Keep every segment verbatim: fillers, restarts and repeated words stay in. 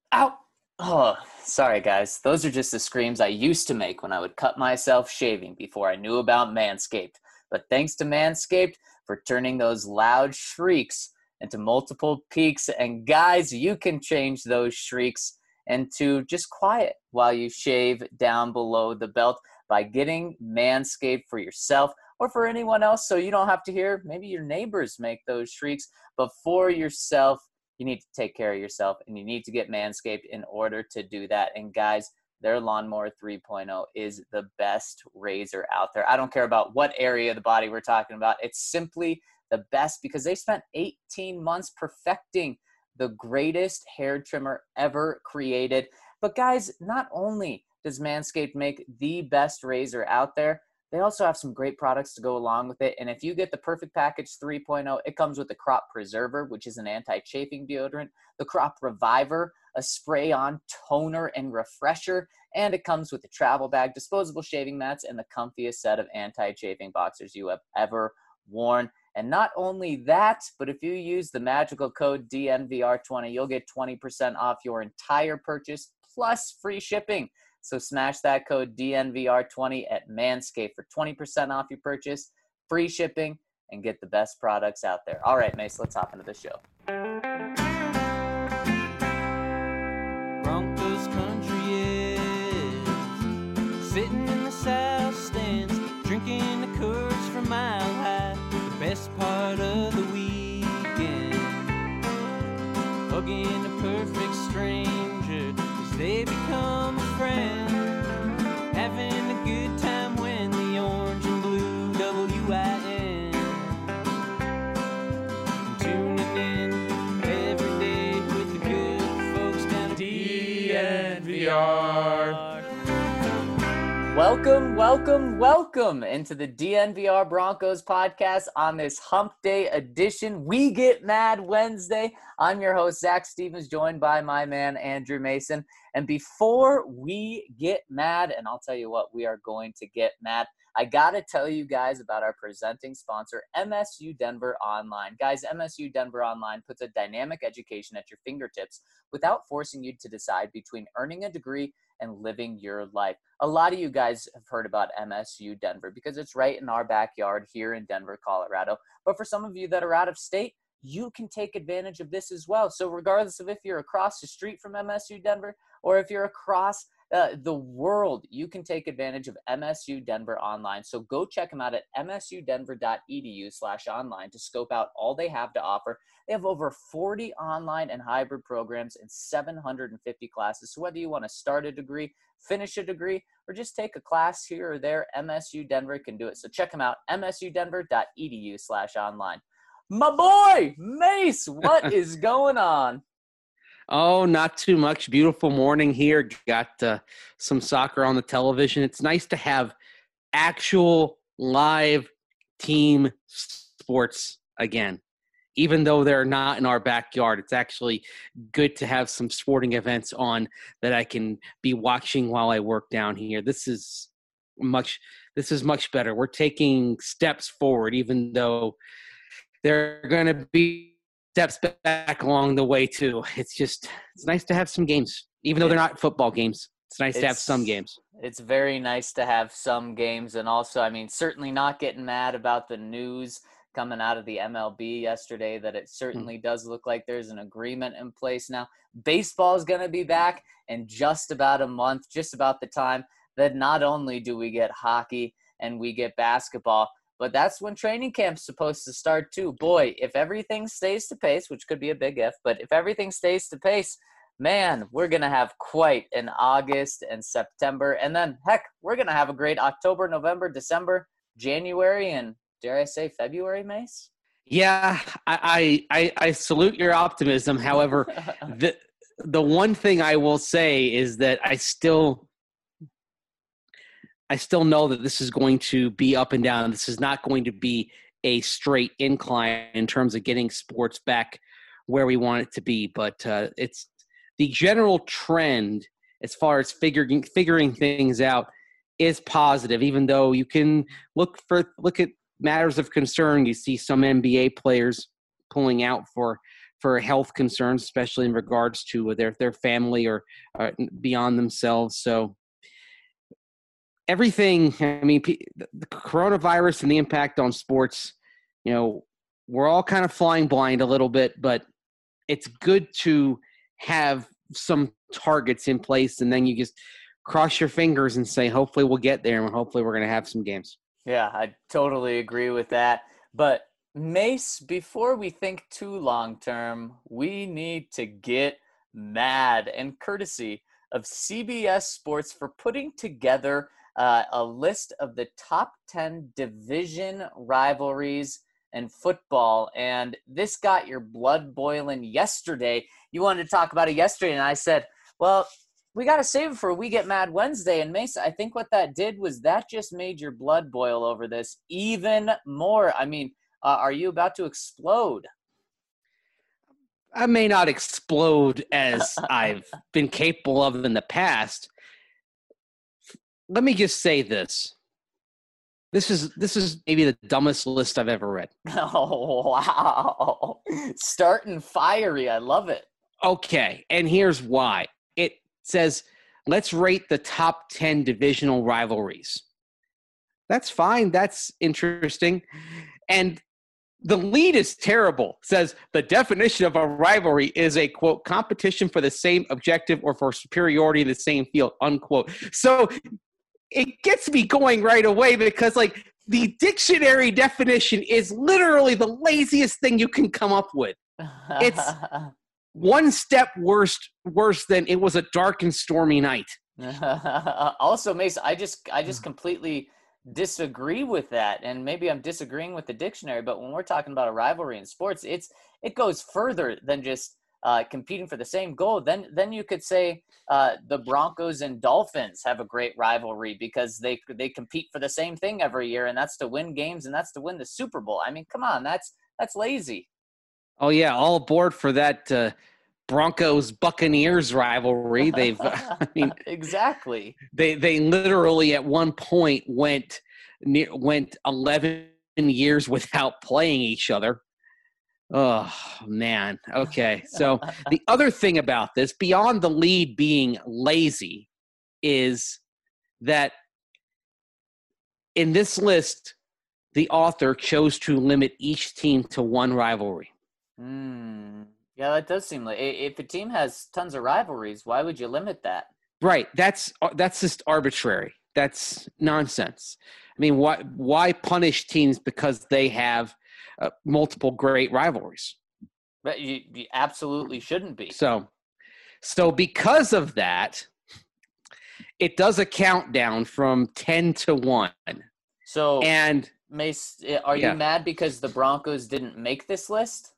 Ow! Oh, sorry, guys. Those are just the screams I used to make when I would cut myself shaving before I knew about Manscaped. But thanks to Manscaped for turning those loud shrieks into multiple peaks. And guys, you can change those shrieks into just quiet while you shave down below the belt by getting Manscaped for yourself or for anyone else, so you don't have to hear maybe your neighbors make those shrieks. But for yourself, you need to take care of yourself, and you need to get Manscaped in order to do that. And guys, their Lawnmower three point oh is the best razor out there. I don't care about what area of the body we're talking about. It's simply the best because they spent eighteen months perfecting the greatest hair trimmer ever created. But guys, not only does Manscaped make the best razor out there, they also have some great products to go along with it. And if you get the Perfect Package three point oh, it comes with the Crop Preserver, which is an anti-chafing deodorant, the Crop Reviver, a spray-on toner and refresher, and it comes with the travel bag, disposable shaving mats, and the comfiest set of anti-chafing boxers you have ever worn. And not only that, but if you use the magical code D N V R twenty, you'll get twenty percent off your entire purchase plus free shipping. So smash that code D N V R twenty at Manscaped for twenty percent off your purchase, free shipping, and get the best products out there. All right, Mace, let's hop into the show. Broncos country is sitting in the south stands, drinking the Coors from Mile High. The best part of the weekend, hugging a perfect stranger as they become a friend, having a good time when the orange and blue W I N, tuning in every day with the good folks down at D N V R. Welcome, welcome, welcome into the D N V R Broncos podcast on this Hump Day edition. We Get Mad Wednesday. I'm your host, Zach Stevens, joined by my man, Andrew Mason. And before we get mad, and I'll tell you what, we are going to get mad, I got to tell you guys about our presenting sponsor, M S U Denver Online. Guys, M S U Denver Online puts a dynamic education at your fingertips without forcing you to decide between earning a degree and living your life. A lot of you guys have heard about M S U Denver because it's right in our backyard here in Denver, Colorado. But for some of you that are out of state, you can take advantage of this as well. So regardless of if you're across the street from M S U Denver or if you're across uh, the world, you can take advantage of M S U Denver Online. So go check them out at msudenver.edu slash online to scope out all they have to offer. They have over forty online and hybrid programs and seven hundred fifty classes. So whether you want to start a degree, finish a degree, or just take a class here or there, M S U Denver can do it. So check them out, msudenver.edu slash online. My boy, Mace, what is going on? Oh, not too much. Beautiful morning here. Got uh, some soccer on the television. It's nice to have actual live team sports again. Even though they're not in our backyard, it's actually good to have some sporting events on that I can be watching while I work down here. This is much, this is much better. We're taking steps forward, even though there are going to be steps back along the way too. It's just, it's nice to have some games, even though they're not football games. It's nice it's, to have some games. It's very nice to have some games. And also, I mean, certainly not getting mad about the news coming out of the M L B yesterday that it certainly mm-hmm. does look like there's an agreement in place now. Baseball is going to be back in just about a month, just about the time that not only do we get hockey and we get basketball, but that's when training camp's supposed to start too. Boy, if everything stays to pace, which could be a big if, but if everything stays to pace, man, we're going to have quite an August and September. And then, heck, we're going to have a great October, November, December, January, and dare I say February, Mace? Yeah, I I, I salute your optimism. However, the the one thing I will say is that I still – I still know that this is going to be up and down. This is not going to be a straight incline in terms of getting sports back where we want it to be. But uh, it's the general trend as far as figuring figuring things out is positive. Even though you can look for look at matters of concern, you see some N B A players pulling out for for health concerns, especially in regards to their their family or uh, beyond themselves. So everything, I mean, the coronavirus and the impact on sports, you know, we're all kind of flying blind a little bit, but it's good to have some targets in place, and then you just cross your fingers and say, hopefully we'll get there, and hopefully we're going to have some games. Yeah, I totally agree with that. But Mace, before we think too long term, we need to get mad, and courtesy of C B S Sports for putting together uh, a list of the top ten division rivalries in football. And this got your blood boiling yesterday. You wanted to talk about it yesterday, and I said, well, we got to save it for We Get Mad Wednesday. And Mace, I think what that did was that just made your blood boil over this even more. I mean, uh, are you about to explode? I may not explode as I've been capable of in the past. Let me just say this. This is this is maybe the dumbest list I've ever read. Oh, wow. Starting fiery. I love it. Okay, and here's why. It says, let's rate the top ten divisional rivalries. That's fine. That's interesting. And the lead is terrible. It says the definition of a rivalry is a, quote, competition for the same objective or for superiority in the same field, unquote. So it gets me going right away because, like, the dictionary definition is literally the laziest thing you can come up with. It's one step worse, worse than it was a dark and stormy night. Also, Mace, I just I just completely disagree with that, and maybe I'm disagreeing with the dictionary, but when we're talking about a rivalry in sports, it's it goes further than just uh, competing for the same goal. Then then you could say uh, the Broncos and Dolphins have a great rivalry because they they compete for the same thing every year, and that's to win games, and that's to win the Super Bowl. I mean, come on, that's that's lazy. Oh yeah, all aboard for that uh, Broncos Buccaneers rivalry. They've, I mean, exactly. They they literally at one point went near, went eleven years without playing each other. Oh man. Okay. So the other thing about this, beyond the lead being lazy, is that in this list, the author chose to limit each team to one rivalry. Mm. Yeah, that does seem like if a team has tons of rivalries, why would you limit that? Right. That's that's just arbitrary. That's nonsense. I mean, why why punish teams because they have uh, multiple great rivalries? But you, you absolutely shouldn't be. So, so because of that, it does a countdown from ten to one. So, and Mace, are you yeah. mad because the Broncos didn't make this list?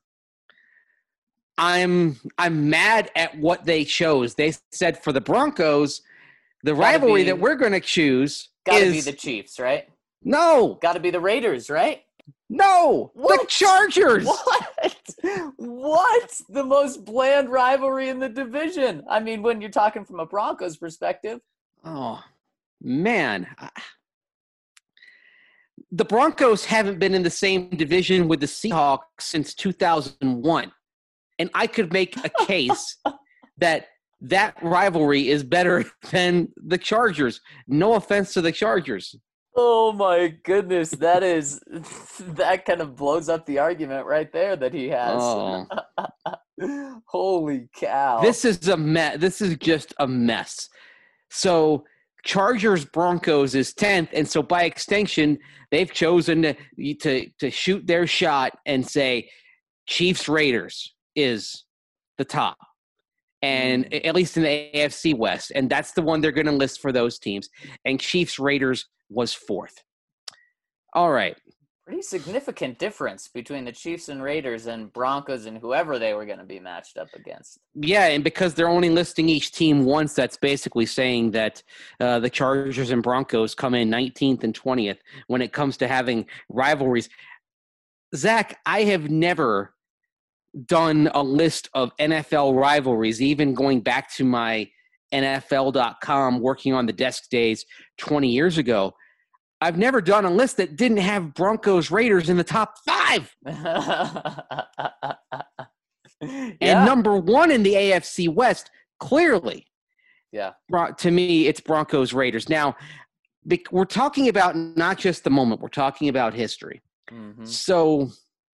I'm I'm mad at what they chose. They said for the Broncos, the rivalry be, that we're going to choose gotta is be the Chiefs, right? No, gotta be the Raiders, right? No, what? The Chargers. What? What? The most bland rivalry in the division. I mean, when you're talking from a Broncos perspective. Oh man, the Broncos haven't been in the same division with the Seahawks since two thousand one. And I could make a case that that rivalry is better than the Chargers. No offense to the Chargers. Oh, my goodness. That is – that kind of blows up the argument right there that he has. Oh. Holy cow. This is a mess. This is just a mess. So Chargers Broncos is tenth, and so by extension, they've chosen to to, to shoot their shot and say Chiefs Raiders is the top, and mm. at least in the A F C West, and that's the one they're going to list for those teams. And Chiefs Raiders was fourth. All right. Pretty significant difference between the Chiefs and Raiders and Broncos and whoever they were going to be matched up against. Yeah, and because they're only listing each team once, that's basically saying that uh, the Chargers and Broncos come in nineteenth and twentieth when it comes to having rivalries. Zach, I have never done a list of N F L rivalries, even going back to my N F L dot com working on the desk days twenty years ago. I've never done a list that didn't have Broncos Raiders in the top five. And Yeah. number one in the A F C West, clearly, Yeah. Bron- to me, it's Broncos Raiders. Now, bec- we're talking about not just the moment, we're talking about history. Mm-hmm. So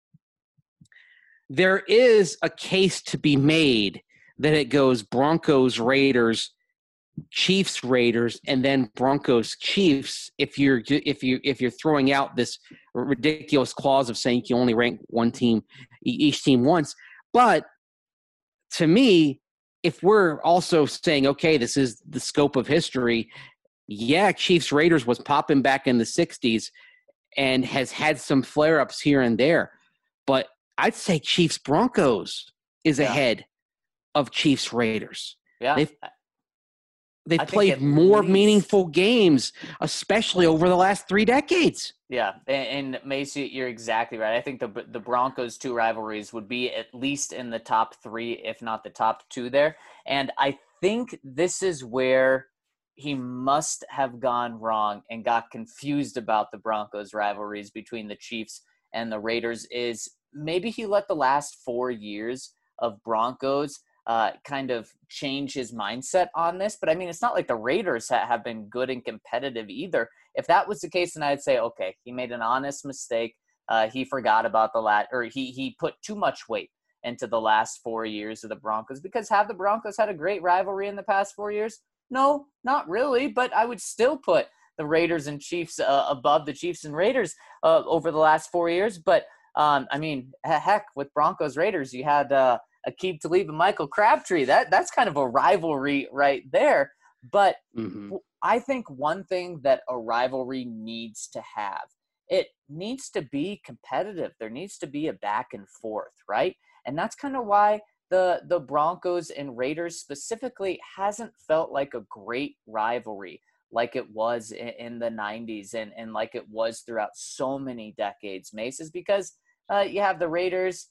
there is a case to be made that it goes Broncos Raiders, Chiefs Raiders, and then Broncos Chiefs. If you're if you if you're throwing out this ridiculous clause of saying you only rank one team, each team once, but to me, if we're also saying, okay, this is the scope of history, yeah, Chiefs Raiders was popping back in the sixties and has had some flare-ups here and there. But I'd say Chiefs Broncos is Yeah. ahead of Chiefs Raiders. Yeah. They've they've I think played at more least- meaningful games, especially over the last three decades. Yeah, and, and Macy, you're exactly right. I think the the Broncos two rivalries would be at least in the top three, if not the top two there. And I think this is where he must have gone wrong and got confused about the Broncos rivalries between the Chiefs and the Raiders is maybe he let the last four years of Broncos uh, kind of change his mindset on this. But I mean, it's not like the Raiders ha- have been good and competitive either. If that was the case, then I'd say, okay, he made an honest mistake. Uh, he forgot about the lat, or he he put too much weight into the last four years of the Broncos, because have the Broncos had a great rivalry in the past four years? No, not really, but I would still put the Raiders and Chiefs uh, above the Chiefs and Raiders uh, over the last four years. But, um, I mean, heck, with Broncos Raiders, you had uh, Aqib Talib and Michael Crabtree. That That's kind of a rivalry right there. But Mm-hmm. I think one thing that a rivalry needs to have, it needs to be competitive. There needs to be a back and forth, right? And that's kind of why the the Broncos and Raiders specifically hasn't felt like a great rivalry like it was in, in the nineties and, and like it was throughout so many decades, Mace, is because uh, you have the Raiders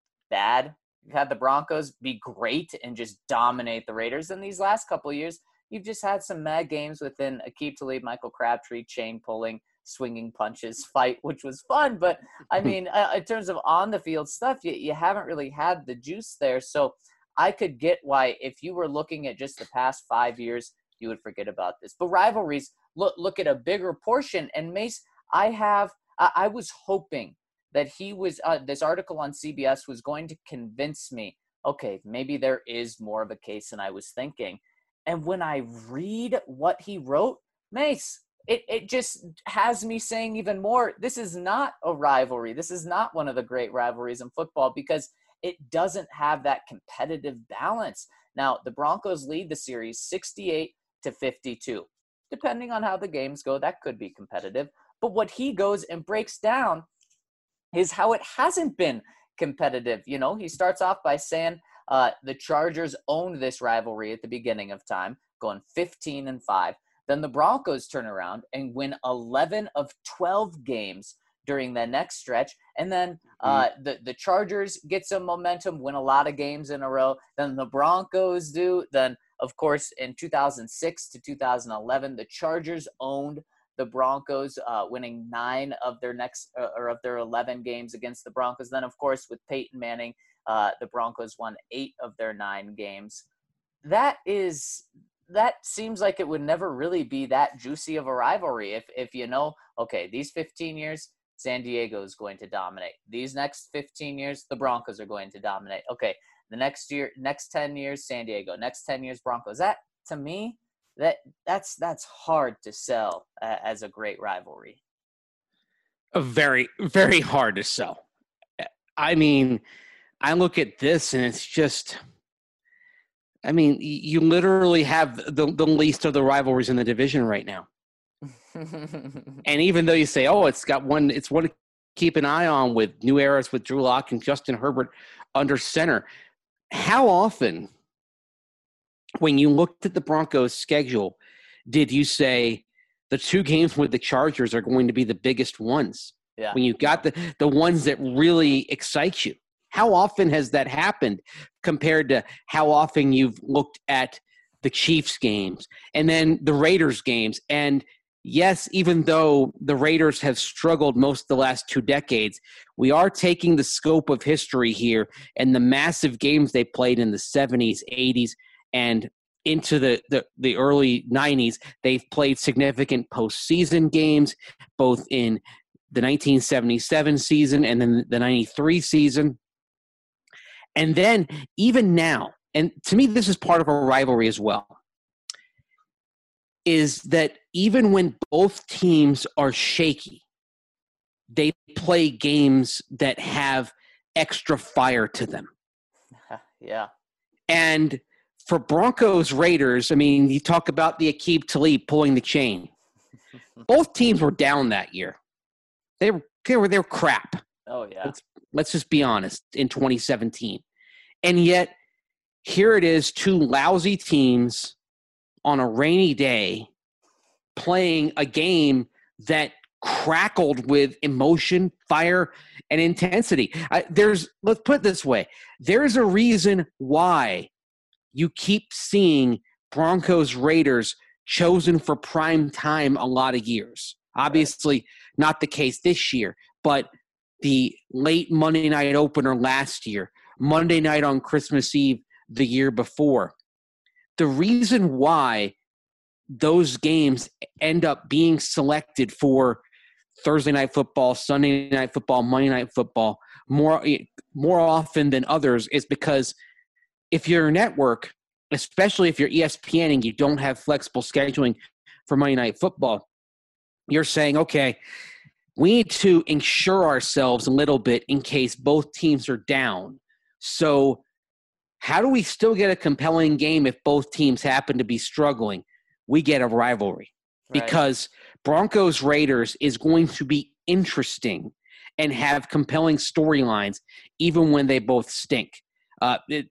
bad, you had the Broncos be great and just dominate the Raiders. In these last couple of years, you've just had some mad games within Aqib Talib, Michael Crabtree, chain pulling, swinging punches fight, which was fun. But, I mean, uh, in terms of on-the-field stuff, you, you haven't really had the juice there. So I could get why if you were looking at just the past five years, you would forget about this. But rivalries, look look at a bigger portion. And, Mace, I have I, I was hoping that he was uh, – this article on C B S was going to convince me, okay, maybe there is more of a case than I was thinking. And when I read what he wrote, Mace, it, it just has me saying even more, this is not a rivalry. This is not one of the great rivalries in football because it doesn't have that competitive balance. Now, the Broncos lead the series sixty-eight to fifty-two. Depending on how the games go, that could be competitive. But what he goes and breaks down is how it hasn't been competitive. You know, he starts off by saying, Uh, the Chargers owned this rivalry at the beginning of time, going fifteen and five. Then the Broncos turn around and win eleven of twelve games during the next stretch. And then uh, the, the Chargers get some momentum, win a lot of games in a row. Then the Broncos do. Then, of course, in two thousand six to two thousand eleven, the Chargers owned the Broncos, uh, winning nine of their next uh, or of their eleven games against the Broncos. Then, of course, with Peyton Manning, Uh, the Broncos won eight of their nine games. That is, that seems like it would never really be that juicy of a rivalry. If, if you know, okay, these fifteen years, San Diego is going to dominate. These next fifteen years, the Broncos are going to dominate. Okay, the next year, next ten years, San Diego. Next ten years, Broncos. That, to me, that that's that's hard to sell uh, as a great rivalry. A very, very hard to sell. I mean, I look at this and it's just, I mean, you literally have the, the least of the rivalries in the division right now. And even though you say, oh, it's got one, it's one to keep an eye on with new eras with Drew Lock and Justin Herbert under center. How often, when you looked at the Broncos schedule, did you say the two games with the Chargers are going to be the biggest ones? Yeah. When you got the, the ones that really excite you. How often has that happened compared to how often you've looked at the Chiefs games and then the Raiders games? And yes, even though the Raiders have struggled most of the last two decades, we are taking the scope of history here and the massive games they played in the seventies, eighties, and into the, the, the early nineties. They've played significant postseason games, both in the nineteen seventy-seven season and then the ninety-three season. And then even now, and to me this is part of a rivalry as well, is that even when both teams are shaky, they play games that have extra fire to them. Yeah. And for Broncos Raiders, I mean, you talk about the Aqib Talib pulling the chain. Both teams were down that year. They were they were, they were crap. Oh, yeah. Let's, let's just be honest, in twenty seventeen. And yet, here it is, two lousy teams on a rainy day playing a game that crackled with emotion, fire, and intensity. I, there's, let's put it this way. There's a reason why you keep seeing Broncos Raiders chosen for prime time a lot of years. Obviously, not the case this year, but the late Monday night opener last year, Monday night on Christmas Eve the year before. The reason why those games end up being selected for Thursday night football, Sunday night football, Monday night football more more often than others is because if you're a network, especially if you're E S P N and you don't have flexible scheduling for Monday night football, you're saying, okay, we need to ensure ourselves a little bit in case both teams are down. So how do we still get a compelling game if both teams happen to be struggling? We get a rivalry. Right. Because Broncos Raiders is going to be interesting and have compelling storylines even when they both stink. Uh, it,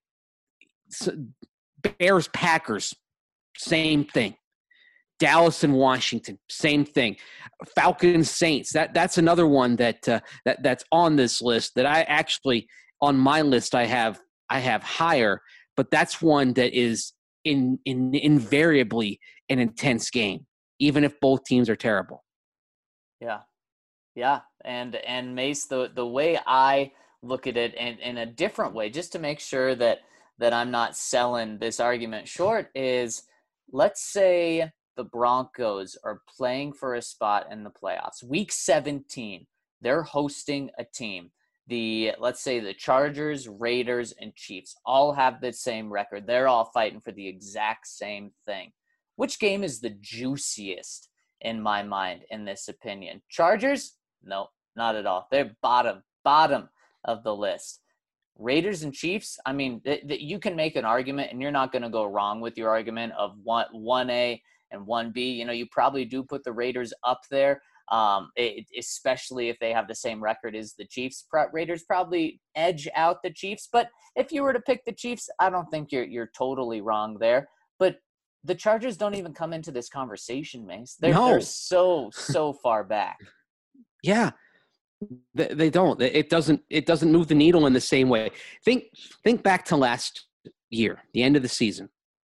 Bears Packers, same thing. Dallas and Washington, same thing. Falcons Saints, that that's another one that uh, that that's on this list that I actually on my list I have I have higher, but that's one that is in, in invariably an intense game, even if both teams are terrible. Yeah. Yeah. And and Mace, the the way I look at it and in a different way, just to make sure that that I'm not selling this argument short, is let's say the Broncos are playing for a spot in the playoffs. Week seventeen, they're hosting a team. The let's say the Chargers, Raiders, and Chiefs all have the same record. They're all fighting for the exact same thing. Which game is the juiciest in my mind in this opinion? Chargers? No, not at all. They're bottom, bottom of the list. Raiders and Chiefs, I mean, th- th- you can make an argument, and you're not going to go wrong with your argument of one, one A and one B. You know, you probably do put the Raiders up there, um, it, especially if they have the same record as the Chiefs. Pro- Raiders probably edge out the Chiefs, but if you were to pick the Chiefs, I don't think you're you're totally wrong there. But the Chargers don't even come into this conversation, Mace. They're, no. they're so, so far back. Yeah. They don't. It doesn't. It doesn't move the needle in the same way. Think. Think back to last year, the end of the season,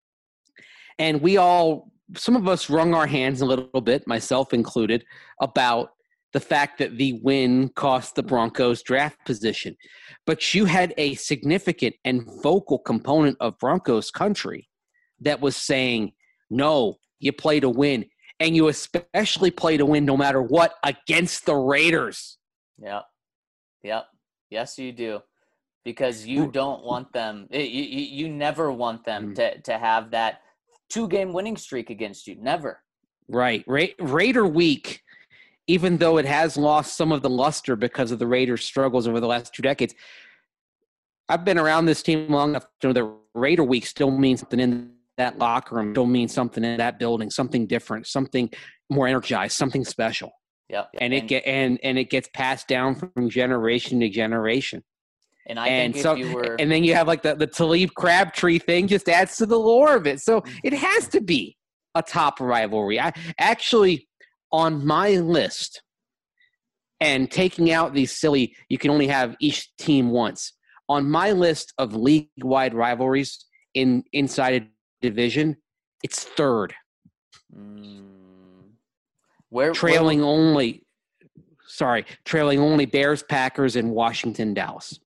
and we all, some of us, wrung our hands a little bit, myself included, about the fact that the win cost the Broncos draft position. But you had a significant and vocal component of Broncos country that was saying, "No, you play to win, and you especially play to win, no matter what, against the Raiders." Yep. Yep. Yes, you do. Because you don't want them, you, you, you never want them mm. to, to have that two-game winning streak against you. Never. Right. Ra- Raider week, even though it has lost some of the luster because of the Raiders' struggles over the last two decades, I've been around this team long enough to know that Raider week still means something in that locker room, still means something in that building, something different, something more energized, something special. Yep. And, and it get and and it gets passed down from generation to generation. And I and think so, if you were, and then you have like the the Talib Crabtree thing just adds to the lore of it. So it has to be a top rivalry. I actually on my list, and taking out these silly, you can only have each team once. On my list of league-wide rivalries in inside a division, it's third. Mm. Where trailing where, only, sorry, trailing only Bears, Packers, and Washington, Dallas.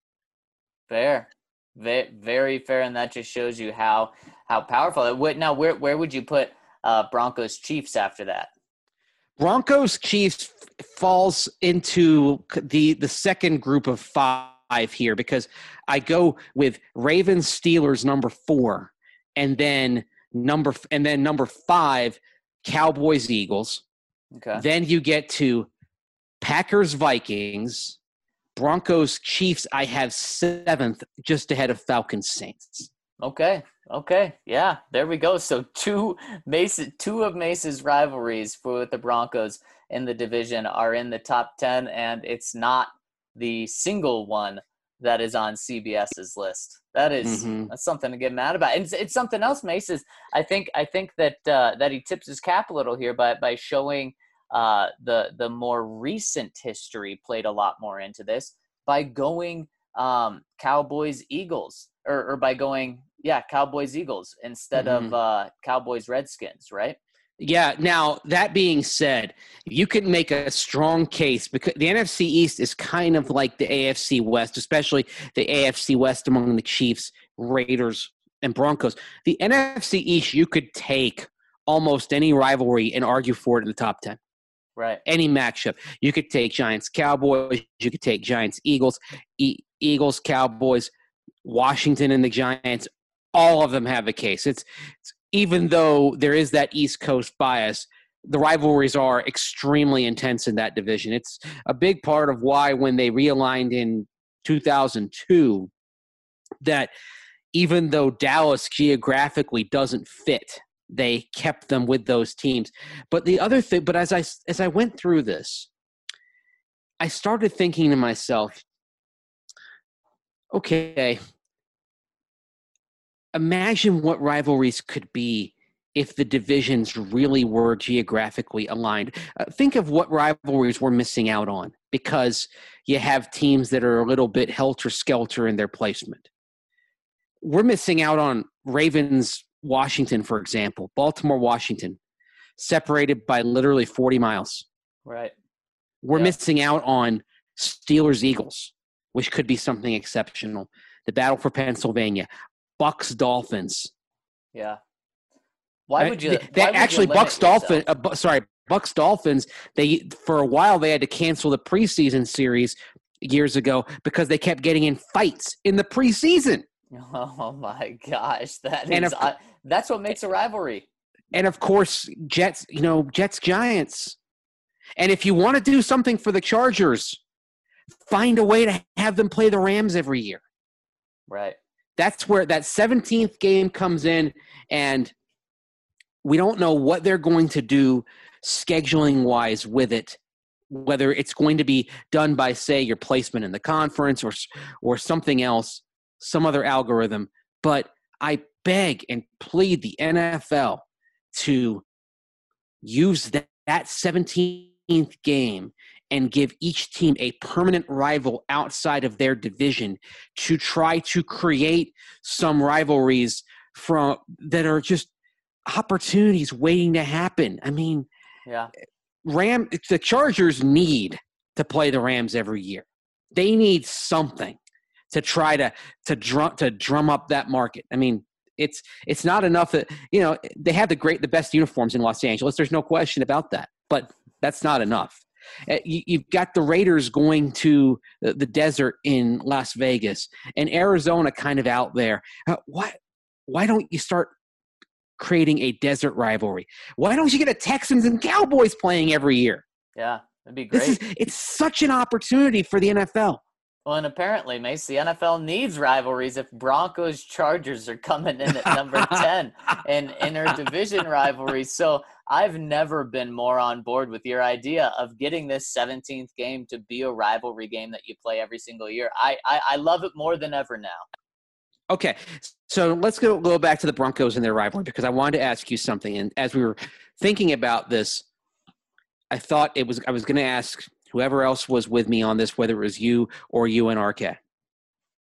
Fair, very, very fair, and that just shows you how how powerful. It, now, where where would you put uh, Broncos Chiefs after that? Broncos Chiefs falls into the the second group of five here because I go with Ravens Steelers number four, and then number and then number five Cowboys Eagles. Okay. Then you get to Packers Vikings, Broncos Chiefs. I have seventh, just ahead of Falcons Saints. Okay. Okay. Yeah, there we go. So two Mace, two of Mace's rivalries for the Broncos in the division are in the top ten, and it's not the single one that is on CBS's list. That is mm-hmm. that's something to get mad about. And it's, it's something else Mace is. I think I think that uh, that he tips his cap a little here by by showing uh, the the more recent history played a lot more into this by going um, Cowboys Eagles or, or by going. Yeah, Cowboys Eagles instead mm-hmm. of uh, Cowboys Redskins, right? Yeah. Now, that being said, you can make a strong case because the N F C East is kind of like the A F C West, especially the A F C West among the Chiefs, Raiders, and Broncos. The N F C East, you could take almost any rivalry and argue for it in the top ten. Right. Any matchup. You could take Giants Cowboys. You could take Giants Eagles, e- Eagles Cowboys, Washington and the Giants. All of them have a case. It's, it's even though there is that East Coast bias, the rivalries are extremely intense in that division. It's a big part of why when they realigned in two thousand two, that even though Dallas geographically doesn't fit, they kept them with those teams. But the other thing, but as I as I went through this, I started thinking to myself, okay, imagine what rivalries could be if the divisions really were geographically aligned. Uh, think of what rivalries we're missing out on because you have teams that are a little bit helter-skelter in their placement. We're missing out on Ravens, Washington, for example, Baltimore, Washington, separated by literally forty miles. Right. We're yeah. missing out on Steelers, Eagles, which could be something exceptional. The battle for Pennsylvania. Bucks Dolphins. Yeah. Why would you? They, they why would actually you Bucks Dolphins. Uh, bu- sorry, Bucks Dolphins. They for a while they had to cancel the preseason series years ago because they kept getting in fights in the preseason. Oh my gosh, that and is of, uh, that's what makes a rivalry. And of course, Jets. You know, Jets Giants. And if you want to do something for the Chargers, find a way to have them play the Rams every year. Right. That's where that seventeenth game comes in, and we don't know what they're going to do scheduling-wise with it, whether it's going to be done by, say, your placement in the conference or or something else, some other algorithm. But I beg and plead the N F L to use that, that seventeenth game and give each team a permanent rival outside of their division to try to create some rivalries from that are just opportunities waiting to happen. I mean, yeah, Ram the Chargers need to play the Rams every year. They need something to try to to drum to drum up that market. I mean, it's it's not enough that, you know, they have the great the best uniforms in Los Angeles. There's no question about that. But that's not enough. You've got the Raiders going to the desert in Las Vegas and Arizona kind of out there. Why, why don't you start creating a desert rivalry? Why don't you get a Texans and Cowboys playing every year? Yeah, that'd be great. This is, it's such an opportunity for the N F L. Well, and apparently, Mace, the N F L needs rivalries if Broncos Chargers are coming in at number ten in inter-division rivalries. So I've never been more on board with your idea of getting this seventeenth game to be a rivalry game that you play every single year. I, I, I love it more than ever now. Okay, so let's go, go back to the Broncos and their rivalry because I wanted to ask you something. And as we were thinking about this, I thought it was I was going to ask whoever else was with me on this, whether it was you or you and R K.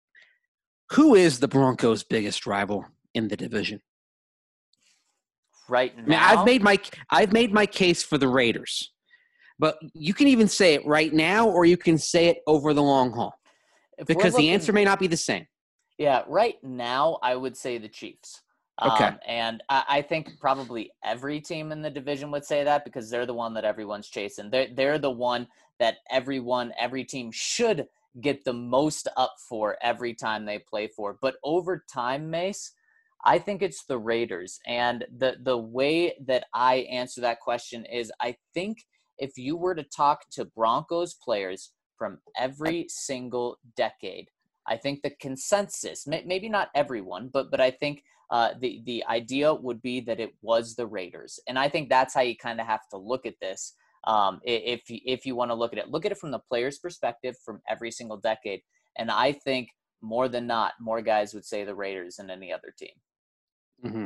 Who is the Broncos' biggest rival in the division? right now. I mean, I've made my I've made my case for the Raiders, but you can even say it right now, or you can say it over the long haul, if because looking, the answer may not be the same. Yeah, right now I would say the Chiefs. Okay. Um, and I, I think probably every team in the division would say that, because they're the one that everyone's chasing. They're, they're the one that everyone, every team should get the most up for every time they play for. But over time, Mace, I think it's the Raiders. And the, the way that I answer that question is, I think if you were to talk to Broncos players from every single decade, I think the consensus, maybe not everyone, but but I think uh, the, the idea would be that it was the Raiders. And I think that's how you kind of have to look at this. Um, if, if you want to look at it, look at it from the player's perspective from every single decade. And I think more than not, more guys would say the Raiders than any other team. Mm-hmm.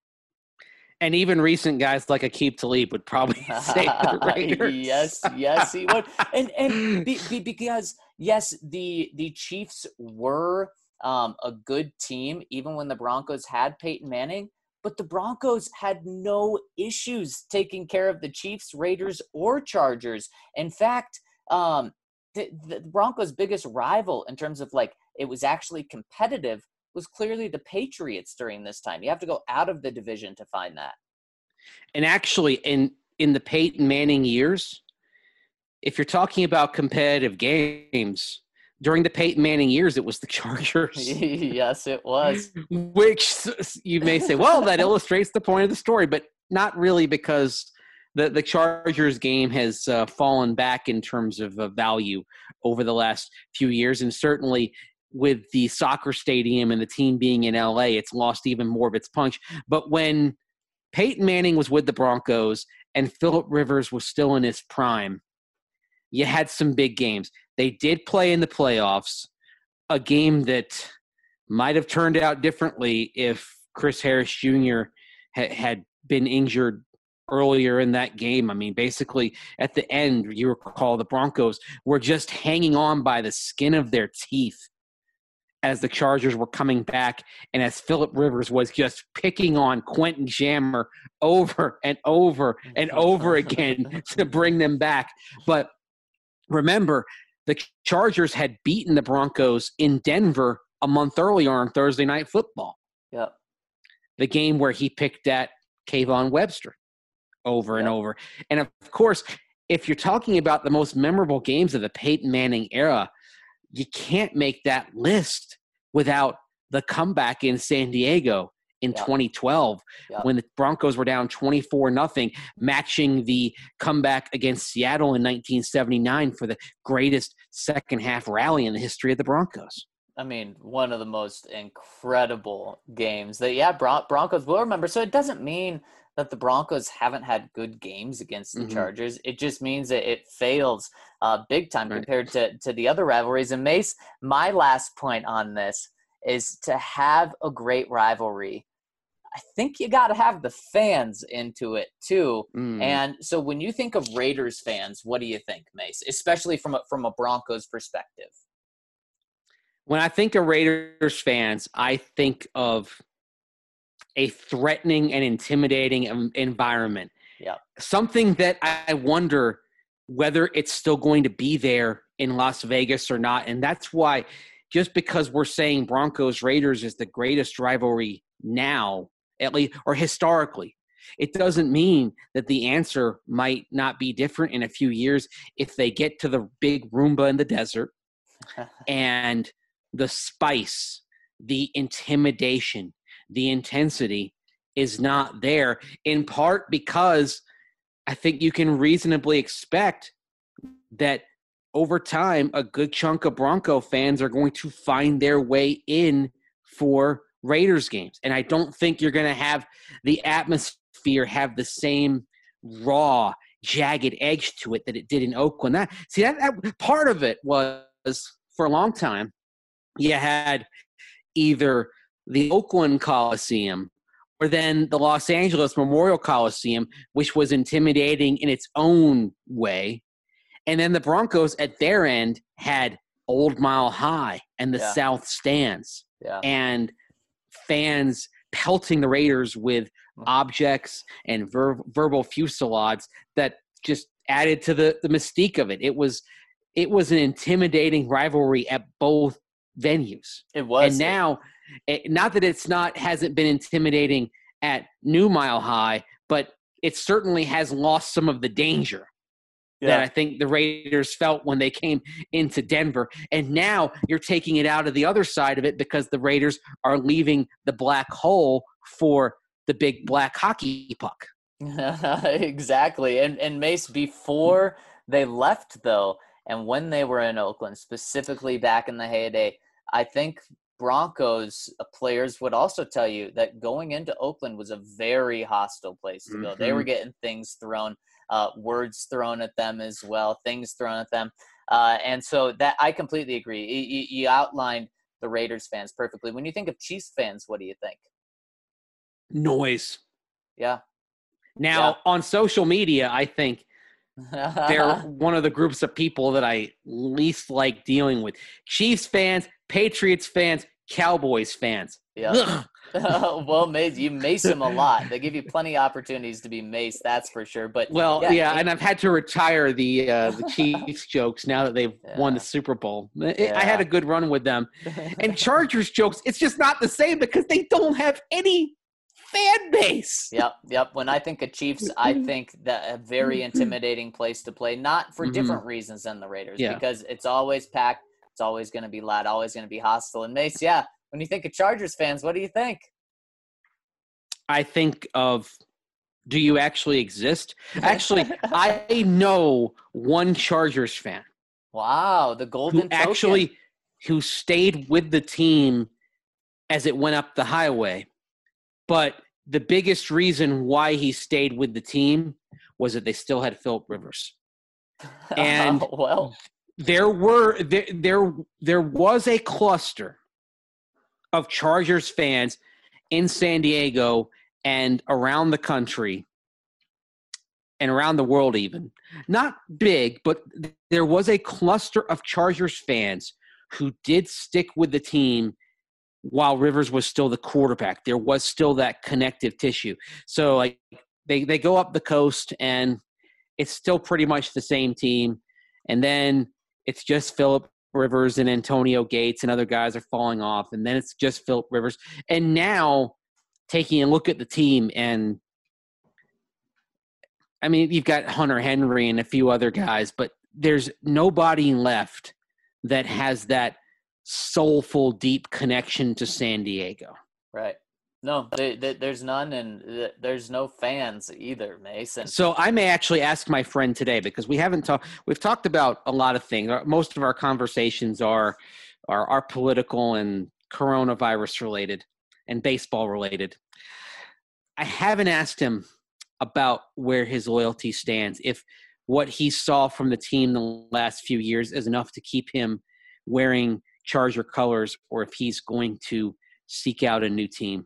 And even recent guys like Aqib Talib would probably say the Raiders. yes, yes, he would. And and be, be, because yes, the the Chiefs were um, a good team even when the Broncos had Peyton Manning, but the Broncos had no issues taking care of the Chiefs, Raiders, or Chargers. In fact, um, the, the Broncos' biggest rival in terms of like it was actually competitive was clearly the Patriots during this time. You have to go out of the division to find that. And actually, in, in the Peyton Manning years, if you're talking about competitive games, during the Peyton Manning years, it was the Chargers. Yes, it was. Which you may say, well, that illustrates the point of the story, but not really, because the, the Chargers game has uh, fallen back in terms of uh, value over the last few years. And certainly with the soccer stadium and the team being in L A, it's lost even more of its punch. But when Peyton Manning was with the Broncos and Phillip Rivers was still in his prime, you had some big games. They did play in the playoffs, a game that might have turned out differently if Chris Harris Junior ha- had been injured earlier in that game. I mean, basically at the end, you recall the Broncos were just hanging on by the skin of their teeth as the Chargers were coming back, and as Phillip Rivers was just picking on Quentin Jammer over and over and over again to bring them back. But remember, the Chargers had beaten the Broncos in Denver a month earlier on Thursday Night Football. Yep. The game where he picked at Kayvon Webster over and yep. over. And of course, if you're talking about the most memorable games of the Peyton Manning era, you can't make that list without the comeback in San Diego in yep. twenty twelve yep. when the Broncos were down twenty-four nothing, matching the comeback against Seattle in nineteen seventy-nine for the greatest second half rally in the history of the Broncos. I mean, one of the most incredible games that, yeah, Bron- Broncos will remember. So it doesn't mean that the Broncos haven't had good games against the mm-hmm. Chargers. It just means that it fails uh, big time right. compared to, to the other rivalries. And Mace, my last point on this is to have a great rivalry. I think you got to have the fans into it too. Mm. And so when you think of Raiders fans, what do you think, Mace, especially from a, from a Broncos perspective? When I think of Raiders fans, I think of a threatening and intimidating environment. Yeah. Something that I wonder whether it's still going to be there in Las Vegas or not. And that's why, just because we're saying Broncos Raiders is the greatest rivalry now, at least, or historically, it doesn't mean that the answer might not be different in a few years if they get to the big Roomba in the desert and the spice, the intimidation, the intensity is not there, in part because I think you can reasonably expect that over time, a good chunk of Bronco fans are going to find their way in for Raiders games. And I don't think you're going to have the atmosphere have the same raw, jagged edge to it that it did in Oakland. That, see, that, that part of it was, for a long time, you had either the Oakland Coliseum or then the Los Angeles Memorial Coliseum, which was intimidating in its own way. And then the Broncos at their end had Old Mile High and the yeah. South Stands. Yeah. And fans pelting the Raiders with objects and ver- verbal fusillades that just added to the, the mystique of it. It was it was an intimidating rivalry at both venues. It was. And now, it, not that it's not hasn't been intimidating at New Mile High, but it certainly has lost some of the danger yeah. that I think the Raiders felt when they came into Denver. And now you're taking it out of the other side of it because the Raiders are leaving the black hole for the big black hockey puck. Exactly. And and Mace, before they left, though, and when they were in Oakland, specifically back in the heyday, I think Broncos players would also tell you that going into Oakland was a very hostile place to go. Mm-hmm. They were getting things thrown, uh, words thrown at them as well, things thrown at them. Uh, and so that I completely agree. You, you outlined the Raiders fans perfectly. When you think of Chiefs fans, what do you think? Noise. Yeah. Now, yeah. on social media, I think they're one of the groups of people that I least like dealing with. Chiefs fans, Patriots fans, Cowboys fans. Yeah. Well, Mace, you mace them a lot. They give you plenty of opportunities to be maced, that's for sure. But well, yeah, yeah it, and I've had to retire the uh, the Chiefs jokes now that they've yeah. won the Super Bowl. Yeah. I had a good run with them. And Chargers jokes, it's just not the same because they don't have any fan base. Yep, yep. When I think of Chiefs, I think that a very intimidating place to play, not for mm-hmm. different reasons than the Raiders, yeah. because it's always packed, it's always going to be loud, always going to be hostile. And Mace, yeah, when you think of Chargers fans, what do you think? I think of, do you actually exist? Actually, I know one Chargers fan. Wow, the golden who token. Actually, who stayed with the team as it went up the highway. But the biggest reason why he stayed with the team was that they still had Philip Rivers. And oh, well, there were there, there there was a cluster of Chargers fans in San Diego and around the country and around the world even. Not big, but there was a cluster of Chargers fans who did stick with the team while Rivers was still the quarterback. There was still that connective tissue. So like they, they go up the coast and it's still pretty much the same team. And then it's just Philip Rivers and Antonio Gates and other guys are falling off. And then it's just Philip Rivers. And now taking a look at the team and I mean, you've got Hunter Henry and a few other guys, but there's nobody left that has that soulful, deep connection to San Diego. Right. No, they, they, there's none, and th- there's no fans either, Mason. So I may actually ask my friend today because we haven't talked. We've talked about a lot of things. Most of our conversations are are, are political and coronavirus related and baseball related. I haven't asked him about where his loyalty stands. If what he saw from the team the last few years is enough to keep him wearing Charger colors, or if he's going to seek out a new team.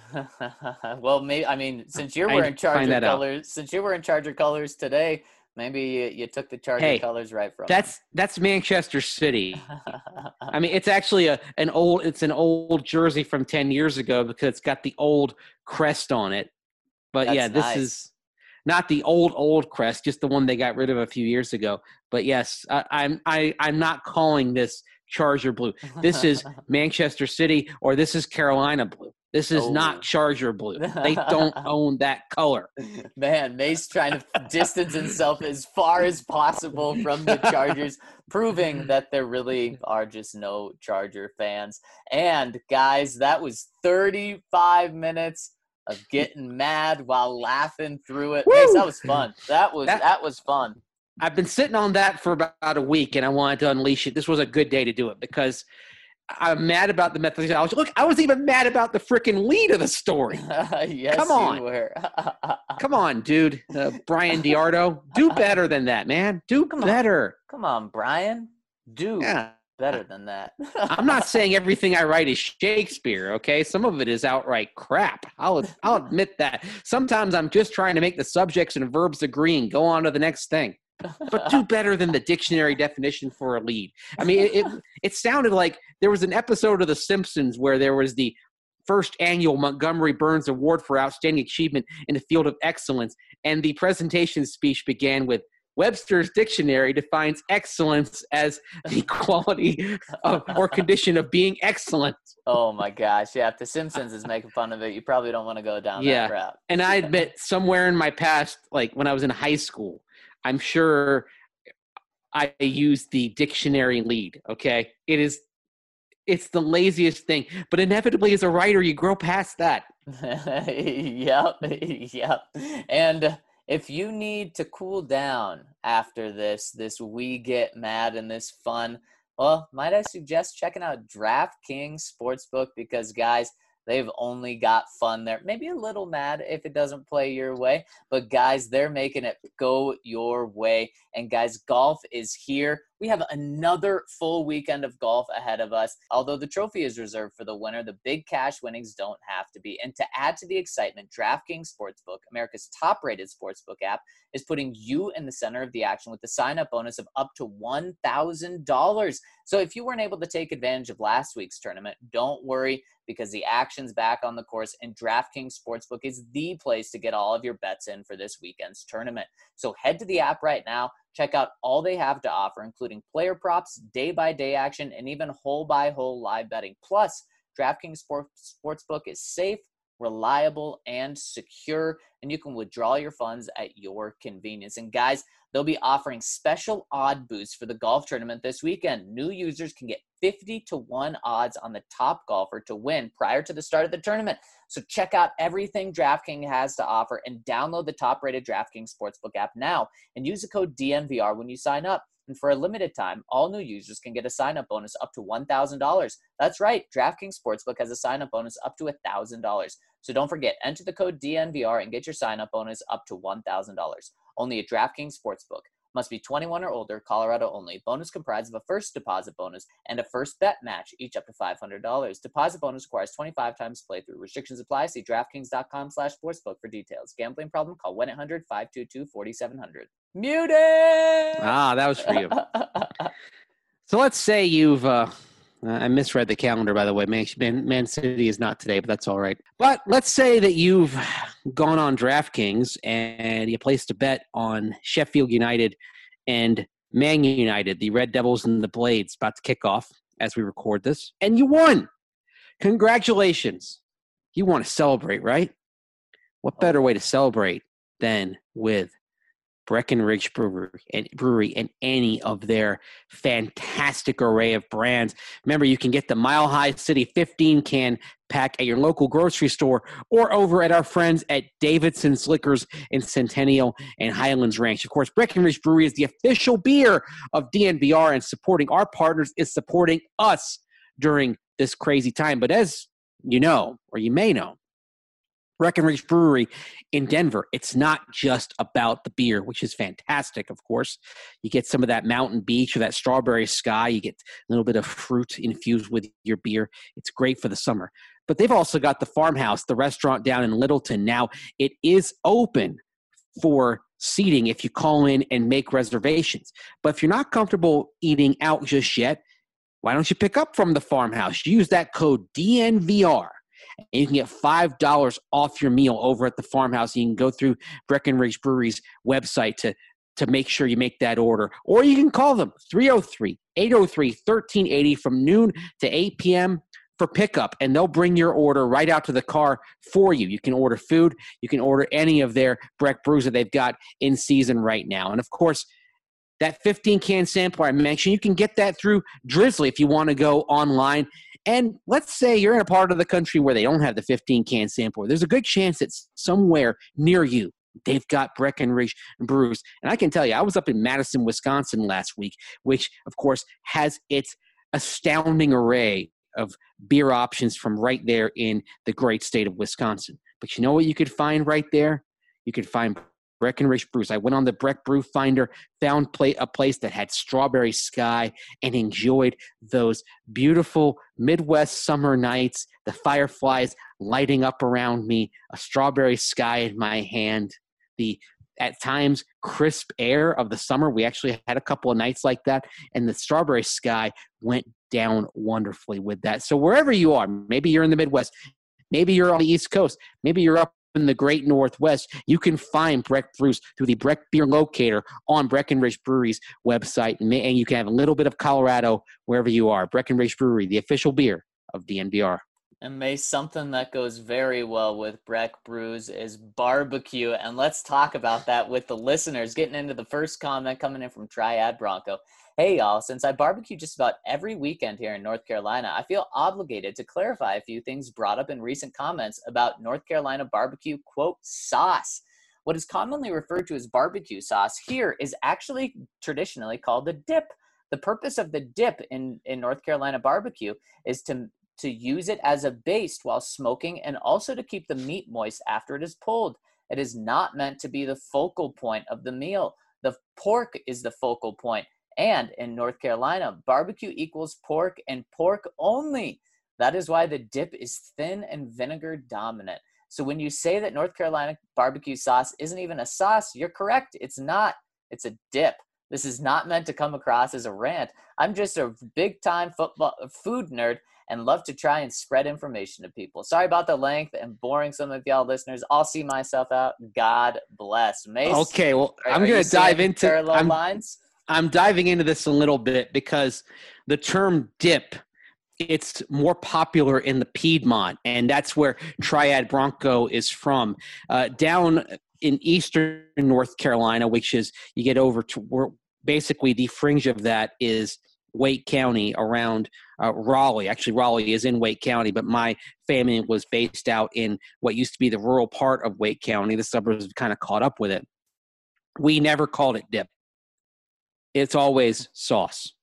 Well, maybe I mean, since you're wearing Charger colors, out. since you're wearing Charger colors today, maybe you, you took the Charger hey, colors right from. That's them. that's Manchester City. I mean, it's actually a an old it's an old jersey from ten years ago because it's got the old crest on it. But that's yeah, this nice. is not the old old crest, just the one they got rid of a few years ago. But yes, I, I'm I I'm not calling this Charger blue. This is Manchester City, or this is Carolina blue. This is oh. not Charger blue. They don't own that color. Man, Mace trying to distance himself as far as possible from the Chargers, proving that there really are just no Charger fans. And guys, that was thirty-five minutes of getting mad while laughing through it. Mace, that was fun. That was that, that was fun. I've been sitting on that for about a week, and I wanted to unleash it. This was a good day to do it because I'm mad about the methodology. Look, I was even mad about the freaking lead of the story. Yes, Come on. you were. Come on, dude. Uh, Brian Diardo. Do better than that, man. Do Come better. On. Come on, Brian. Do yeah. better than that. I'm not saying everything I write is Shakespeare, okay? Some of it is outright crap. I'll I'll admit that. Sometimes I'm just trying to make the subjects and verbs agree and go on to the next thing. But do better than the dictionary definition for a lead. I mean, it, it it sounded like there was an episode of The Simpsons where there was the first annual Montgomery Burns Award for Outstanding Achievement in the Field of Excellence. And the presentation speech began with, Webster's Dictionary defines excellence as the quality of, or condition of being excellent. Oh my gosh. Yeah. If The Simpsons is making fun of it, you probably don't want to go down Yeah. that route. And I admit, somewhere in my past, like when I was in high school, I'm sure I used the dictionary lead. Okay. It is, it's the laziest thing, but inevitably as a writer, you grow past that. Yep. Yep. And if you need to cool down after this, this we get mad and this fun, well, might I suggest checking out DraftKings Sportsbook, because guys, they've only got fun there. Maybe a little mad if it doesn't play your way, but guys, they're making it go your way. And guys, golf is here. We have another full weekend of golf ahead of us. Although the trophy is reserved for the winner, the big cash winnings don't have to be. And to add to the excitement, DraftKings Sportsbook, America's top-rated sportsbook app, is putting you in the center of the action with the sign-up bonus of up to one thousand dollars. So if you weren't able to take advantage of last week's tournament, don't worry, because the action's back on the course, and DraftKings Sportsbook is the place to get all of your bets in for this weekend's tournament. So head to the app right now, check out all they have to offer, including player props, day-by-day action, and even hole-by-hole live betting. Plus, DraftKings Sports, Sportsbook is safe, reliable, and secure, and you can withdraw your funds at your convenience. And guys, they'll be offering special odd boosts for the golf tournament this weekend. New users can get fifty to one odds on the top golfer to win prior to the start of the tournament. So check out everything DraftKings has to offer and download the top-rated DraftKings Sportsbook app now and use the code D N V R when you sign up. And for a limited time, all new users can get a sign-up bonus up to one thousand dollars. That's right, DraftKings Sportsbook has a sign-up bonus up to one thousand dollars. So don't forget, enter the code D N V R and get your sign-up bonus up to one thousand dollars. Only at DraftKings Sportsbook. Must be twenty-one or older, Colorado only. Bonus comprised of a first deposit bonus and a first bet match, each up to five hundred dollars. Deposit bonus requires twenty-five times playthrough. Restrictions apply. See DraftKings.com slash sportsbook for details. Gambling problem? Call one eight hundred five two two four seven zero zero. Muted! Ah, that was for you. So let's say you've, uh, I misread the calendar, by the way. Man, Man, Man City is not today, but that's all right. But let's say that you've gone on DraftKings and you placed a bet on Sheffield United and Man United, the Red Devils and the Blades, about to kick off as we record this, and you won. Congratulations. You want to celebrate, right? What better way to celebrate than with Breckenridge Brewery and Brewery and any of their fantastic array of brands. Remember, you can get the Mile High City fifteen can pack at your local grocery store or over at our friends at Davidson's Liquors in Centennial and Highlands Ranch. Of course, Breckenridge Brewery is the official beer of D N V R, and supporting our partners is supporting us during this crazy time. But as you know, or you may know, Breckenridge Brewery in Denver, it's not just about the beer, which is fantastic, of course. You get some of that mountain beach or that strawberry sky. You get a little bit of fruit infused with your beer. It's great for the summer. But they've also got the Farmhouse, the restaurant down in Littleton. Now, it is open for seating if you call in and make reservations. But if you're not comfortable eating out just yet, why don't you pick up from the Farmhouse? Use that code D N V R. And you can get five dollars off your meal over at the Farmhouse. You can go through Breckenridge Brewery's website to, to make sure you make that order. Or you can call them three oh three, eight oh three, one three eight oh from noon to eight p.m. for pickup, and they'll bring your order right out to the car for you. You can order food. You can order any of their Breck brews that they've got in season right now. And, of course, that fifteen-can sampler I mentioned, you can get that through Drizzly if you want to go online. And let's say you're in a part of the country where they don't have the fifteen-can sampler. There's a good chance it's somewhere near you. They've got Breckenridge brews. And I can tell you, I was up in Madison, Wisconsin last week, which, of course, has its astounding array of beer options from right there in the great state of Wisconsin. But you know what you could find right there? You could find Breckenridge Brews. I went on the Breck Brew Finder, found play, a place that had strawberry sky, and enjoyed those beautiful Midwest summer nights, the fireflies lighting up around me, a strawberry sky in my hand, the at times crisp air of the summer. We actually had a couple of nights like that, and the strawberry sky went down wonderfully with that. So wherever you are, maybe you're in the Midwest, Maybe you're on the East Coast. Maybe you're up in the great Northwest. You can find Breck Brews through the Breck Beer Locator on Breckenridge Brewery's website, and, may, and you can have a little bit of Colorado wherever you are. Breckenridge Brewery, the official beer of D N V R. And May, something that goes very well with Breck Brews is barbecue. And let's talk about that with the listeners. Getting into the first comment coming in from Triad Bronco. Hey, y'all, since I barbecue just about every weekend here in North Carolina, I feel obligated to clarify a few things brought up in recent comments about North Carolina barbecue, quote, sauce. What is commonly referred to as barbecue sauce here is actually traditionally called a dip. The purpose of the dip in, in North Carolina barbecue is to to use it as a base while smoking and also to keep the meat moist after it is pulled. It is not meant to be the focal point of the meal. The pork is the focal point. And in North Carolina, barbecue equals pork and pork only. That is why the dip is thin and vinegar dominant. So when you say that North Carolina barbecue sauce isn't even a sauce, you're correct. It's not. It's a dip. This is not meant to come across as a rant. I'm just a big-time football food nerd and love to try and spread information to people. Sorry about the length and boring some of y'all listeners. I'll see myself out. God bless. Mace, okay, well, are, I'm going to dive into parallel I'm, lines. I'm diving into this a little bit because the term dip, it's more popular in the Piedmont, and that's where Triad Bronco is from. Uh, down in eastern North Carolina, which is you get over to where basically the fringe of that is Wake County around uh, Raleigh. Actually, Raleigh is in Wake County, but my family was based out in what used to be the rural part of Wake County. The suburbs have kind of caught up with it. We never called it dip. It's always sauce.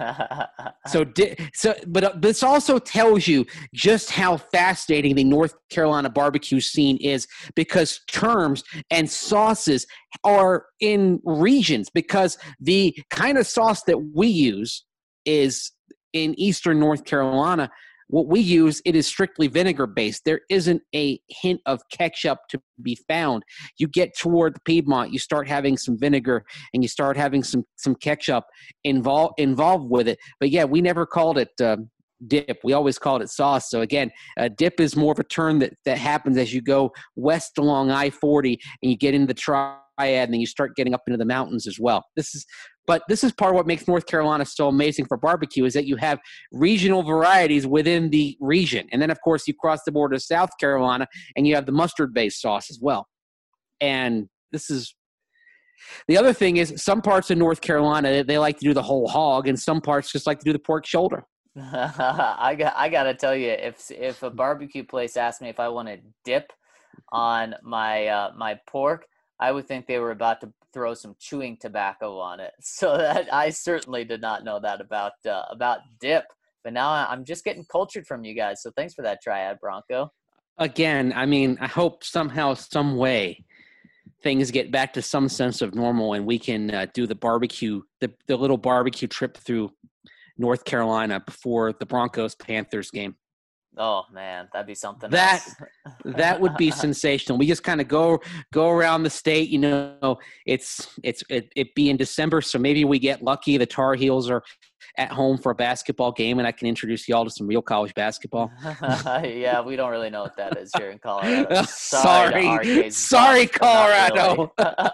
so, di- so, but uh, this also tells you just how fascinating the North Carolina barbecue scene is, because terms and sauces are in regions, because the kind of sauce that we use is in Eastern North Carolina. What we use, it is strictly vinegar based. There isn't a hint of ketchup to be found. You get toward the Piedmont, you start having some vinegar and you start having some some ketchup involved involved with it. But yeah, we never called it uh, dip. We always called it sauce. So again, uh, dip is more of a term that that happens as you go west along I forty and you get into the Triad, and then you start getting up into the mountains as well. This is. But this is part of what makes North Carolina so amazing for barbecue, is that you have regional varieties within the region. And then, of course, you cross the border to South Carolina, and you have the mustard-based sauce as well. And this is – the other thing is some parts of North Carolina, they like to do the whole hog, and some parts just like to do the pork shoulder. I got I got to tell you, if if a barbecue place asked me if I wanted dip on my uh, my pork, I would think they were about to throw some chewing tobacco on it. So that I certainly did not know that about uh, about dip. But now I'm just getting cultured from you guys. So thanks for that, Triad Bronco. Again, I mean, I hope somehow, some way, things get back to some sense of normal, and we can uh, do the barbecue, the, the little barbecue trip through North Carolina before the Broncos-Panthers game. Oh man, that'd be something that else. That would be sensational. We just kind of go go around the state. You know, it's it's it, it be in December, so maybe we get lucky. The Tar Heels are at home for a basketball game, and I can introduce y'all to some real college basketball. Yeah, we don't really know what that is here in Colorado. Sorry, sorry, sorry Colorado.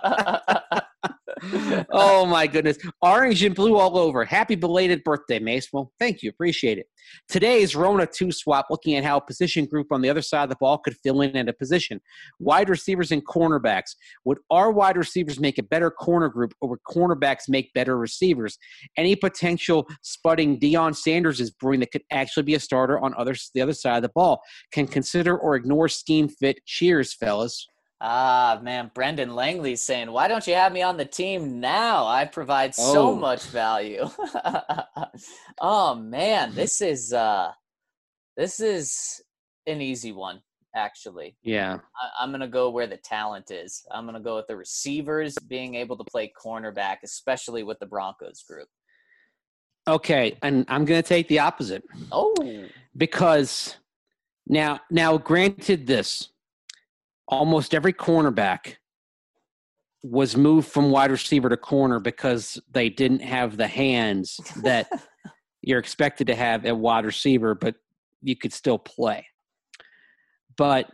Oh my goodness. Orange and blue all over. Happy belated birthday, Mace. Well, thank you. Appreciate it. Today's Rona two swap, looking at how a position group on the other side of the ball could fill in at a position. Wide receivers and cornerbacks. Would our wide receivers make a better corner group, or would cornerbacks make better receivers? Any potential spudding Deion Sanders is brewing that could actually be a starter on other, the other side of the ball. Can consider or ignore scheme fit. Cheers, fellas. Ah, man, Brendan Langley's saying, why don't you have me on the team now? I provide so Oh. much value. Oh, man, this is uh, this is an easy one, actually. Yeah. I- I'm going to go where the talent is. I'm going to go with the receivers being able to play cornerback, especially with the Broncos group. Okay, and I'm going to take the opposite. Oh. Because now, now granted this, almost every cornerback was moved from wide receiver to corner because they didn't have the hands that you're expected to have at wide receiver, but you could still play. but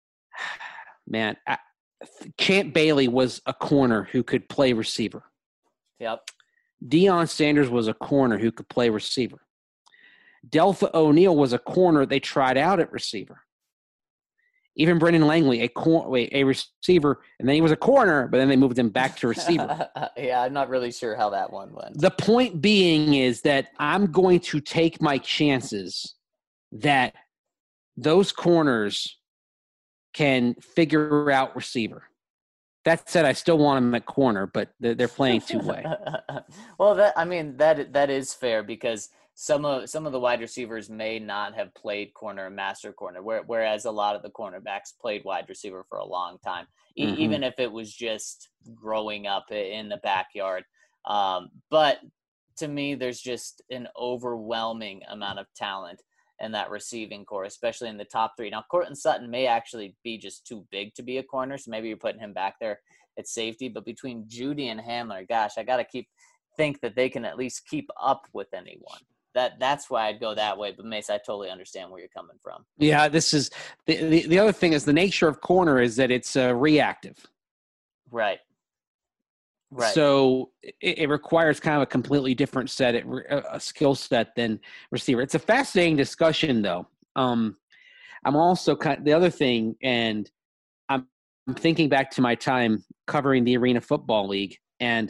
man, I, Champ Bailey was a corner who could play receiver. Yep. Deion Sanders was a corner who could play receiver. Deltha O'Neal was a corner they tried out at receiver. Even Brendan Langley, a cor- wait, a receiver, and then he was a corner, but then they moved him back to receiver. Yeah, I'm not really sure how that one went. The point being is that I'm going to take my chances that those corners can figure out receiver. That said, I still want them at corner, but they're, they're playing two-way. Well, that I mean that that is fair because some of some of the wide receivers may not have played corner and master corner, where, whereas a lot of the cornerbacks played wide receiver for a long time, e- Mm-hmm. even if it was just growing up in the backyard. Um, but to me, there's just an overwhelming amount of talent in that receiving core, especially in the top three. Now, Cortland Sutton may actually be just too big to be a corner, so maybe you're putting him back there at safety. But between Judy and Hamler, gosh, I got to keep think that they can at least keep up with anyone. That that's why I'd go that way. But Mace, I totally understand where you're coming from. Yeah, this is the, the, the other thing is the nature of corner is that it's uh, reactive. Right. Right. So it, it requires kind of a completely different set, a skill set than receiver. It's a fascinating discussion, though. Um, I'm also kind of, the other thing, and I'm, I'm thinking back to my time covering the Arena Football League, and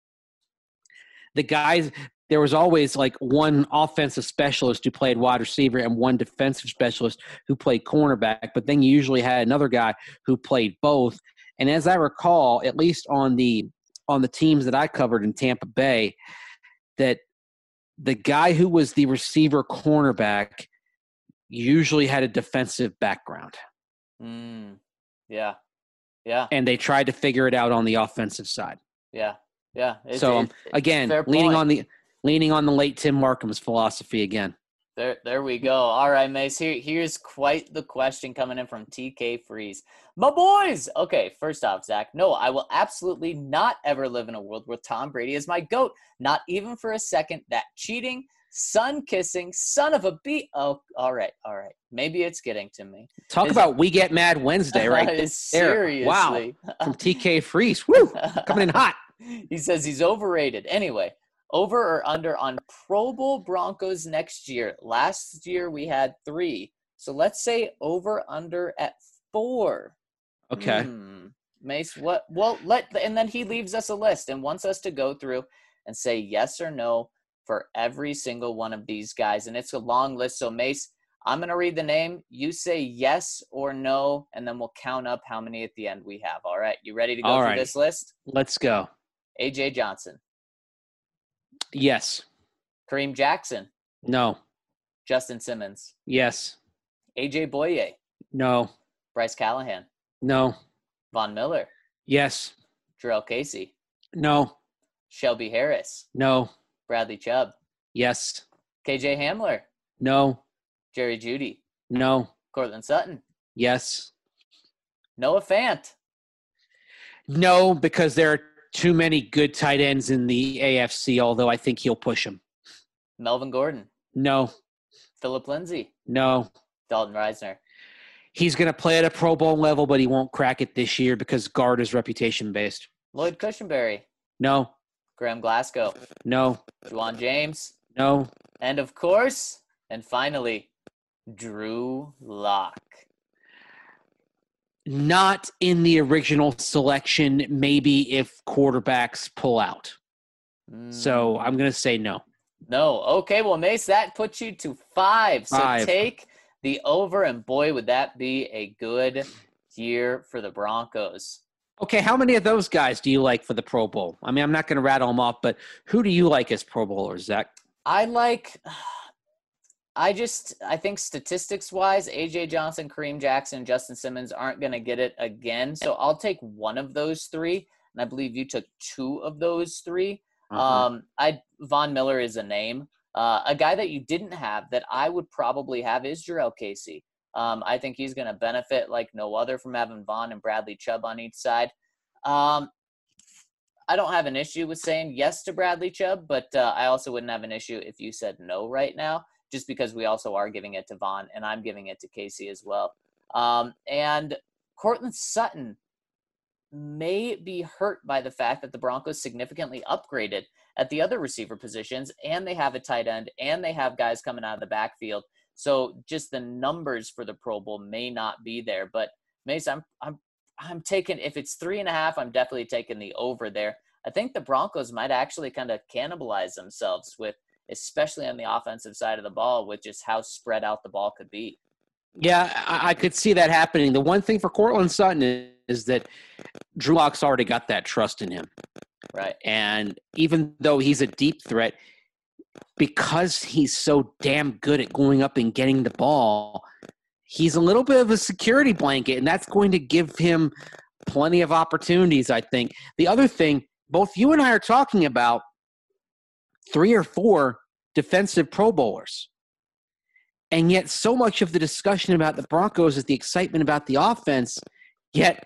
the guys. There was always like one offensive specialist who played wide receiver and one defensive specialist who played cornerback, but then you usually had another guy who played both. And as I recall, at least on the on the teams that I covered in Tampa Bay, that the guy who was the receiver cornerback usually had a defensive background. Mm, yeah. Yeah. And they tried to figure it out on the offensive side. Yeah. Yeah. It's, so it's, again, it's leaning point. on the leaning on the late Tim Markham's philosophy again. There, there we go. All right, Mace. Here, here's quite the question coming in from T K Freeze. My boys. Okay, first off, Zach. No, I will absolutely not ever live in a world where Tom Brady is my GOAT. Not even for a second. That cheating, sun kissing, son of a bee. Oh, all right, all right. Maybe it's getting to me. Talk is, about We Get Mad Wednesday, right there. Seriously. Wow. From T K Freeze. Woo. Coming in hot. He says he's overrated. Anyway. Over or under on Pro Bowl Broncos next year? Last year we had three. So let's say over under at four. Okay. Hmm. Mace, what? Well, let and then he leaves us a list and wants us to go through and say yes or no for every single one of these guys. And it's a long list. So Mace, I'm going to read the name. You say yes or no, and then we'll count up how many at the end we have. All right. You ready to go All through right. this list? Let's go. A J Johnson. Yes. Kareem Jackson. No. Justin Simmons. Yes. A J Boye. No. Bryce Callahan. No. Von Miller. Yes. Jarrell Casey. No. Shelby Harris. No. Bradley Chubb. Yes. K J Hamler. No. Jerry Jeudy. No. Cortland Sutton. Yes. Noah Fant. No, because there are too many good tight ends in the A F C, although I think he'll push them. Melvin Gordon. No. Phillip Lindsay. No. Dalton Reisner. He's going to play at a Pro Bowl level, but he won't crack it this year because guard is reputation-based. Lloyd Cushenberry. No. Graham Glasgow. No. Juwan James. No. And of course, and finally, Drew Lock. Not in the original selection, maybe if quarterbacks pull out. Mm. So I'm going to say no. No. Okay, well, Mace, that puts you to five. So Five. take the over, and boy, would that be a good year for the Broncos. Okay, how many of those guys do you like for the Pro Bowl? I mean, I'm not going to rattle them off, but who do you like as Pro Bowlers, Zach? I like – I just – I think statistics-wise, A J Johnson, Kareem Jackson, Justin Simmons aren't going to get it again. So I'll take one of those three, and I believe you took two of those three. Uh-huh. Um, I Von Miller is a name. Uh, a guy that you didn't have that I would probably have is Jarrell Casey. Um, I think he's going to benefit like no other from having Von and Bradley Chubb on each side. Um, I don't have an issue with saying yes to Bradley Chubb, but uh, I also wouldn't have an issue if you said no right now, just because we also are giving it to Von and I'm giving it to Casey as well. Um, and Cortland Sutton may be hurt by the fact that the Broncos significantly upgraded at the other receiver positions, and they have a tight end, and they have guys coming out of the backfield. So just the numbers for the Pro Bowl may not be there. But Mace, I'm I'm I'm taking, if it's three and a half, I'm definitely taking the over there. I think the Broncos might actually kind of cannibalize themselves with, especially on the offensive side of the ball, with just how spread out the ball could be. Yeah, I, I could see that happening. The one thing for Cortland Sutton is, is that Drew Lock's already got that trust in him. Right. And even though he's a deep threat, because he's so damn good at going up and getting the ball, he's a little bit of a security blanket, and that's going to give him plenty of opportunities, I think. The other thing, both you and I are talking about three or four defensive Pro Bowlers. And yet so much of the discussion about the Broncos is the excitement about the offense. Yet,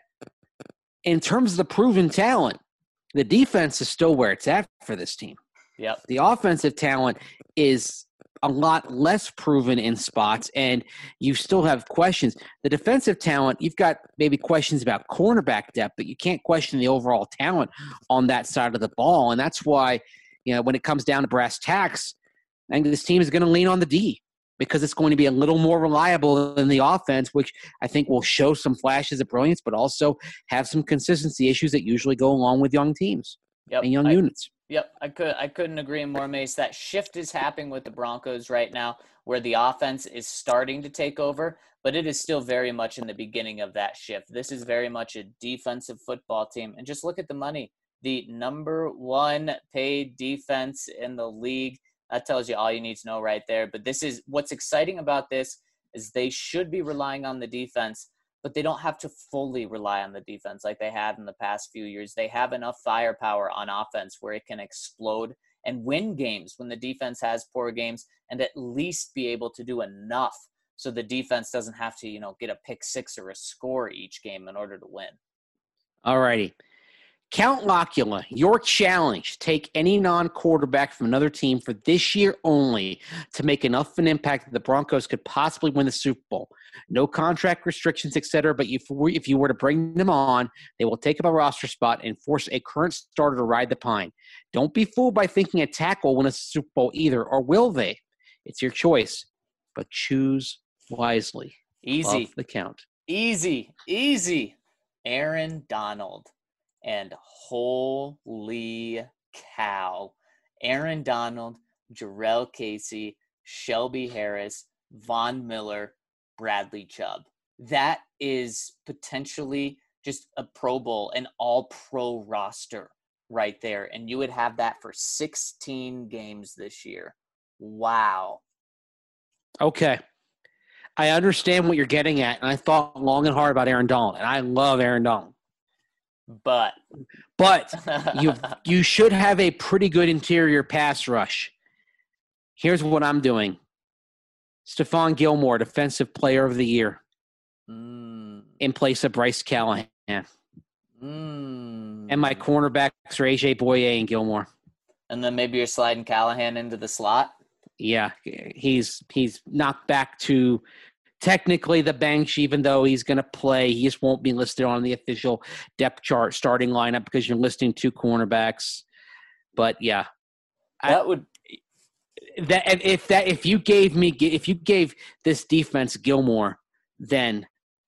in terms of the proven talent, the defense is still where it's at for this team. Yep. The offensive talent is a lot less proven in spots, and you still have questions. The defensive talent, you've got maybe questions about cornerback depth, but you can't question the overall talent on that side of the ball. And that's why, you know, when it comes down to brass tacks, I think this team is going to lean on the D, because it's going to be a little more reliable than the offense, which I think will show some flashes of brilliance, but also have some consistency issues that usually go along with young teams yep. and young I, units. Yep, I could I couldn't agree more, Mace. That shift is happening with the Broncos right now, where the offense is starting to take over, but it is still very much in the beginning of that shift. This is very much a defensive football team, and just look at the money. The number one paid defense in the league. That tells you all you need to know right there. But this is what's exciting about this is they should be relying on the defense, but they don't have to fully rely on the defense like they have in the past few years. They have enough firepower on offense where it can explode and win games when the defense has poor games, and at least be able to do enough so the defense doesn't have to, you know, get a pick six or a score each game in order to win. All righty. Count Locula, your challenge. Take any non-quarterback from another team for this year only to make enough of an impact that the Broncos could possibly win the Super Bowl. No contract restrictions, et cetera, but if, if you were to bring them on, they will take up a roster spot and force a current starter to ride the pine. Don't be fooled by thinking a tackle will win a Super Bowl either, or will they? It's your choice, but choose wisely. Easy. Love the count. Easy. Easy. Aaron Donald. And holy cow, Aaron Donald, Jarrell Casey, Shelby Harris, Von Miller, Bradley Chubb. That is potentially just a Pro Bowl, an all-pro roster right there. And you would have that for sixteen games this year. Wow. Okay. I understand what you're getting at, and I thought long and hard about Aaron Donald, and I love Aaron Donald. But but you you should have a pretty good interior pass rush. Here's what I'm doing. Stephon Gilmore, Defensive Player of the Year, mm. in place of Bryce Callahan. Mm. And my cornerbacks are A J Boye and Gilmore. And then maybe you're sliding Callahan into the slot? Yeah, he's he's knocked back to technically the bench, even though he's going to play. He just won't be listed on the official depth chart starting lineup because you're listing two cornerbacks. But yeah, that I, would that if that if you gave me if you gave this defense Gilmore, then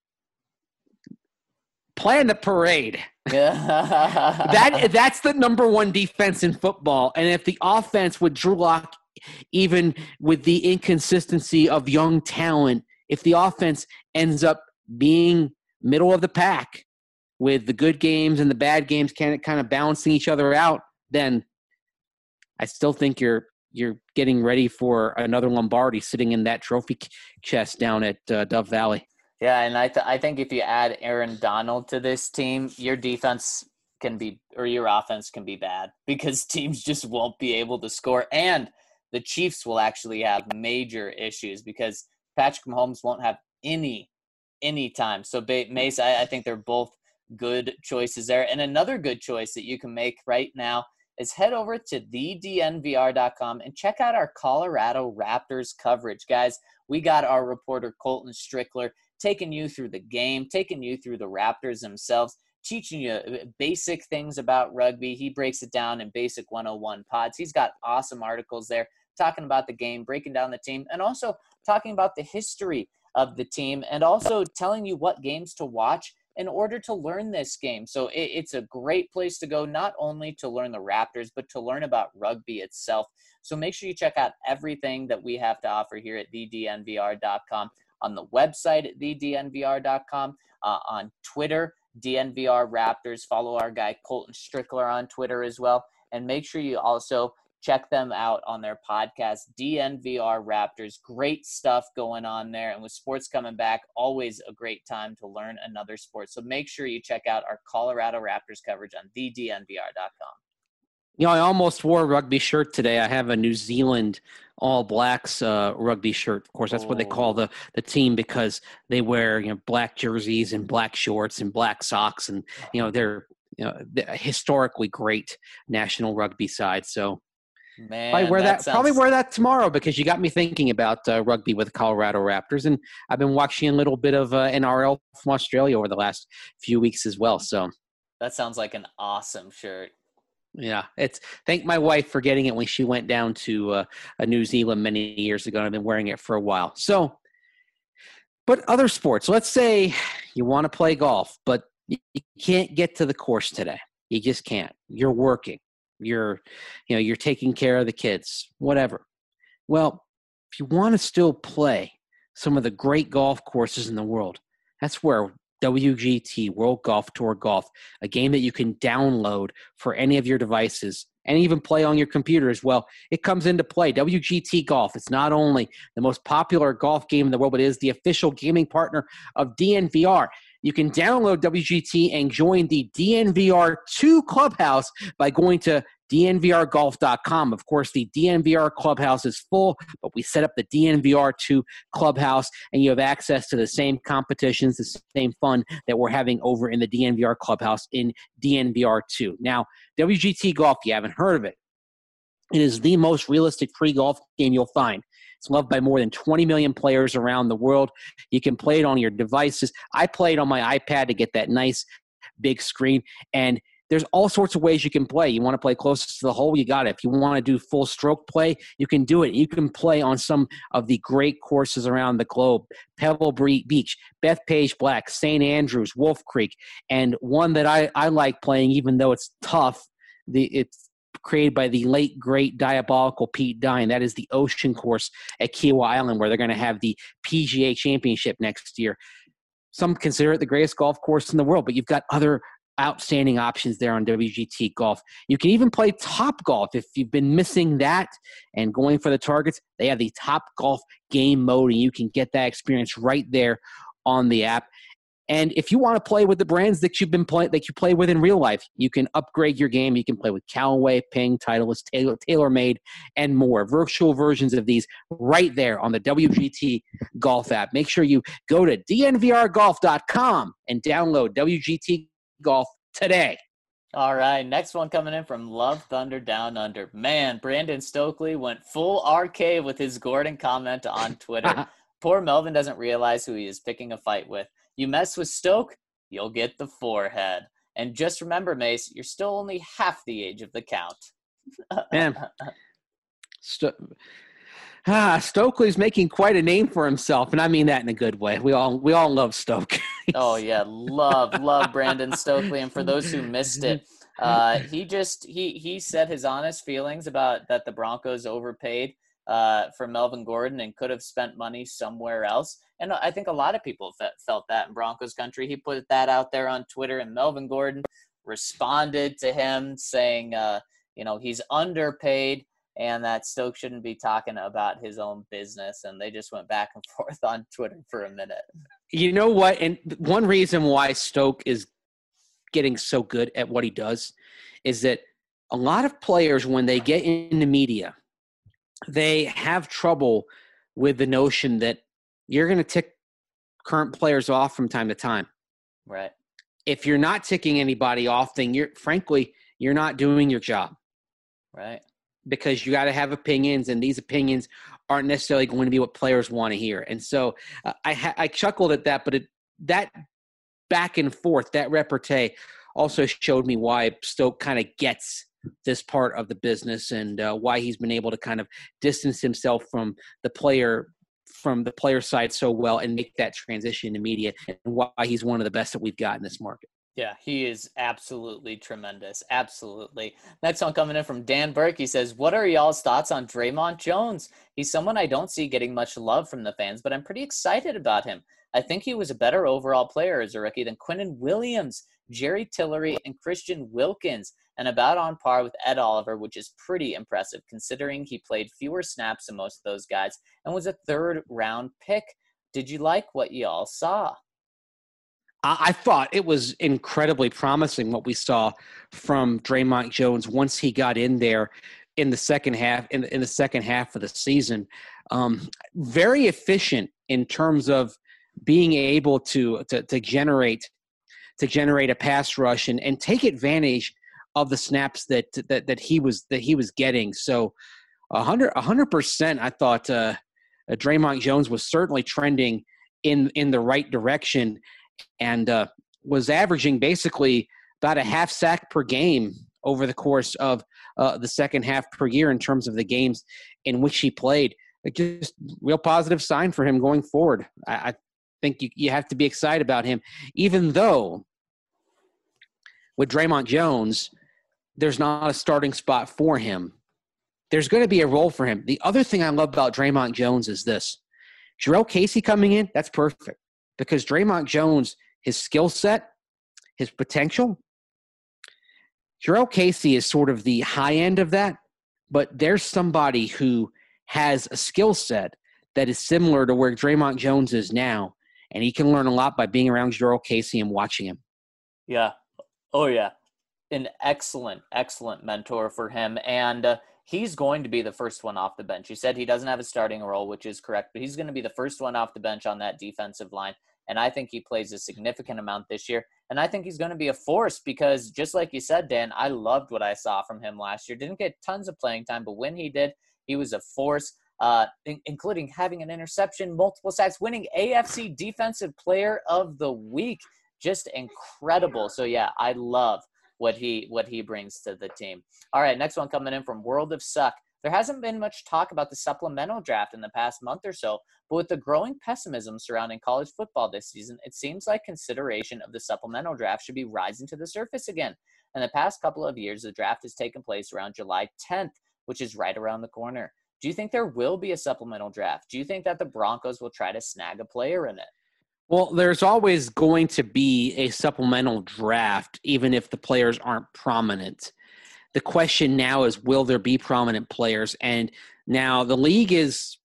plan the parade. that that's the number one defense in football. And if the offense with Drew Lock, even with the inconsistency of young talent, if the offense ends up being middle of the pack with the good games and the bad games kind of kind of balancing each other out, then I still think you're you're getting ready for another Lombardi sitting in that trophy chest down at uh, Dove Valley. Yeah, and I th- I think if you add Aaron Donald to this team, your defense can be or your offense can be bad because teams just won't be able to score, and the Chiefs will actually have major issues because Patrick Mahomes won't have any, any time. So, Mace, I, I think they're both good choices there. And another good choice that you can make right now is head over to the D N V R dot com and check out our Colorado Raptors coverage. Guys, we got our reporter Colton Strickler taking you through the game, taking you through the Raptors themselves, teaching you basic things about rugby. He breaks it down in Basic one oh one pods. He's got awesome articles there talking about the game, breaking down the team, and also talking about the history of the team, and also telling you what games to watch in order to learn this game. So it, it's a great place to go, not only to learn the Raptors, but to learn about rugby itself. So make sure you check out everything that we have to offer here at the d n v r dot com, on the website at the d n v r dot com, uh, on Twitter, D N V R Raptors. Follow our guy Colton Strickler on Twitter as well. And make sure you also check them out on their podcast, D N V R Raptors. Great stuff going on there. And with sports coming back, always a great time to learn another sport. So make sure you check out our Colorado Raptors coverage on the d n v r dot com. You know, I almost wore a rugby shirt today. I have a New Zealand All Blacks uh, rugby shirt. Of course, that's oh. what they call the, the team, because they wear, you know, black jerseys and black shorts and black socks. And, you know, they're, you know, they're a historically great national rugby side. So, Man, probably wear that, that sounds... probably wear that tomorrow, because you got me thinking about uh, rugby with Colorado Raptors, and I've been watching a little bit of uh, N R L from Australia over the last few weeks as well. So that sounds like an awesome shirt. Yeah, it's thank my wife for getting it when she went down to uh, a New Zealand many years ago, and I've been wearing it for a while. So, but other sports. Let's say you want to play golf, but you can't get to the course today. You just can't. You're working. You're, you know, you're taking care of the kids, whatever. Well, if you want to still play some of the great golf courses in the world, that's where W G T, World Golf Tour Golf, a game that you can download for any of your devices and even play on your computer as well, it comes into play. W G T Golf, it's not only the most popular golf game in the world, but it is the official gaming partner of D N V R. You can download W G T and join the D N V R two Clubhouse by going to d n v r golf dot com. Of course, the D N V R Clubhouse is full, but we set up the D N V R two Clubhouse, and you have access to the same competitions, the same fun that we're having over in the D N V R Clubhouse in D N V R two. Now, W G T Golf, you haven't heard of it. It is the most realistic free golf game you'll find. It's loved by more than twenty million players around the world. You can play it on your devices. I played on my iPad to get that nice big screen, and there's all sorts of ways you can play. You want to play closest to the hole, you got it. If you want to do full stroke play, you can do it. You can play on some of the great courses around the globe: Pebble Beach, Bethpage Black, Saint Andrews, Wolf Creek, and one that I, I like playing, even though it's tough. The it's created by the late, great, diabolical Pete Dye. That is the Ocean Course at Kiawah Island, where they're going to have the P G A Championship next year. Some consider it the greatest golf course in the world, but you've got other outstanding options there on W G T Golf. You can even play Top Golf if you've been missing that and going for the targets. They have the Top Golf game mode, and you can get that experience right there on the app. And if you want to play with the brands that you've been playing, that you play with in real life, you can upgrade your game. You can play with Callaway, Ping, Titleist, Taylor, TaylorMade, and more. Virtual versions of these right there on the W G T Golf app. Make sure you go to d n v r golf dot com and download W G T Golf today. All right, next one coming in from Love Thunder Down Under. Man, Brandon Stokely went full R K with his Gordon comment on Twitter. Poor Melvin doesn't realize who he is picking a fight with. You mess with Stoke, you'll get the forehead. And just remember, Mace, you're still only half the age of the count. Man, St- ah, Stokely's making quite a name for himself, and I mean that in a good way. We all we all love Stoke. Oh yeah, love love Brandon Stokely. And for those who missed it, uh, he just he he said his honest feelings about that the Broncos overpaid uh, for Melvin Gordon and could have spent money somewhere else. And I think a lot of people fe- felt that in Broncos country. He put that out there on Twitter, and Melvin Gordon responded to him saying, uh, you know, he's underpaid and that Stoke shouldn't be talking about his own business. And they just went back and forth on Twitter for a minute. You know what? And one reason why Stoke is getting so good at what he does is that a lot of players, when they get in the media, they have trouble with the notion that you're going to tick current players off from time to time. Right. If you're not ticking anybody off, then you're, frankly, you're not doing your job. Right. Because you got to have opinions, and these opinions aren't necessarily going to be what players want to hear. And so uh, I, ha- I chuckled at that, but it, that back and forth, that repartee also showed me why Stoke kind of gets this part of the business and uh, why he's been able to kind of distance himself from the player from the player side so well and make that transition immediate, and why he's one of the best that we've got in this market. Yeah, he is absolutely tremendous. Absolutely. Next one coming in from Dan Burke. He says, what are y'all's thoughts on Draymond Jones? He's someone I don't see getting much love from the fans, but I'm pretty excited about him. I think he was a better overall player as a rookie than Quinnen Williams, Jerry Tillery, and Christian Wilkins, and about on par with Ed Oliver, which is pretty impressive considering he played fewer snaps than most of those guys and was a third-round pick. Did you like what y'all saw? I thought it was incredibly promising what we saw from Draymond Jones once he got in there in the second half, in, in the second half of the season. Um, very efficient in terms of being able to, to, to generate, to generate a pass rush and, and take advantage of the snaps that, that, that he was, that he was getting. So a hundred, a hundred percent, I thought uh, uh, Draymond Jones was certainly trending in, in the right direction, and uh, was averaging basically about a half sack per game over the course of uh, the second half per year in terms of the games in which he played. It just real positive sign for him going forward. I, I think you, you have to be excited about him, even though with Draymond Jones, there's not a starting spot for him. There's going to be a role for him. The other thing I love about Draymond Jones is this. Jurrell Casey coming in, that's perfect. Because Draymond Jones, his skill set, his potential, Jurrell Casey is sort of the high end of that, but there's somebody who has a skill set that is similar to where Draymond Jones is now, and he can learn a lot by being around Jurrell Casey and watching him. Yeah. Oh, yeah. An excellent, excellent mentor for him, and uh, he's going to be the first one off the bench. He said he doesn't have a starting role, which is correct, but he's going to be the first one off the bench on that defensive line. And I think he plays a significant amount this year. And I think he's going to be a force because just like you said, Dan, I loved what I saw from him last year. Didn't get tons of playing time, but when he did, he was a force, uh, in- including having an interception, multiple sacks, winning A F C Defensive Player of the Week. Just incredible. So, yeah, I love what he what he brings to the team. All right, next one coming in from World of Suck. There hasn't been much talk about the supplemental draft in the past month or so, but with the growing pessimism surrounding college football this season, it seems like consideration of the supplemental draft should be rising to the surface again. In the past couple of years, the draft has taken place around July tenth, which is right around the corner. Do you think there will be a supplemental draft? Do you think that the Broncos will try to snag a player in it? Well, there's always going to be a supplemental draft, even if the players aren't prominent. The question now is, will there be prominent players? And now the league has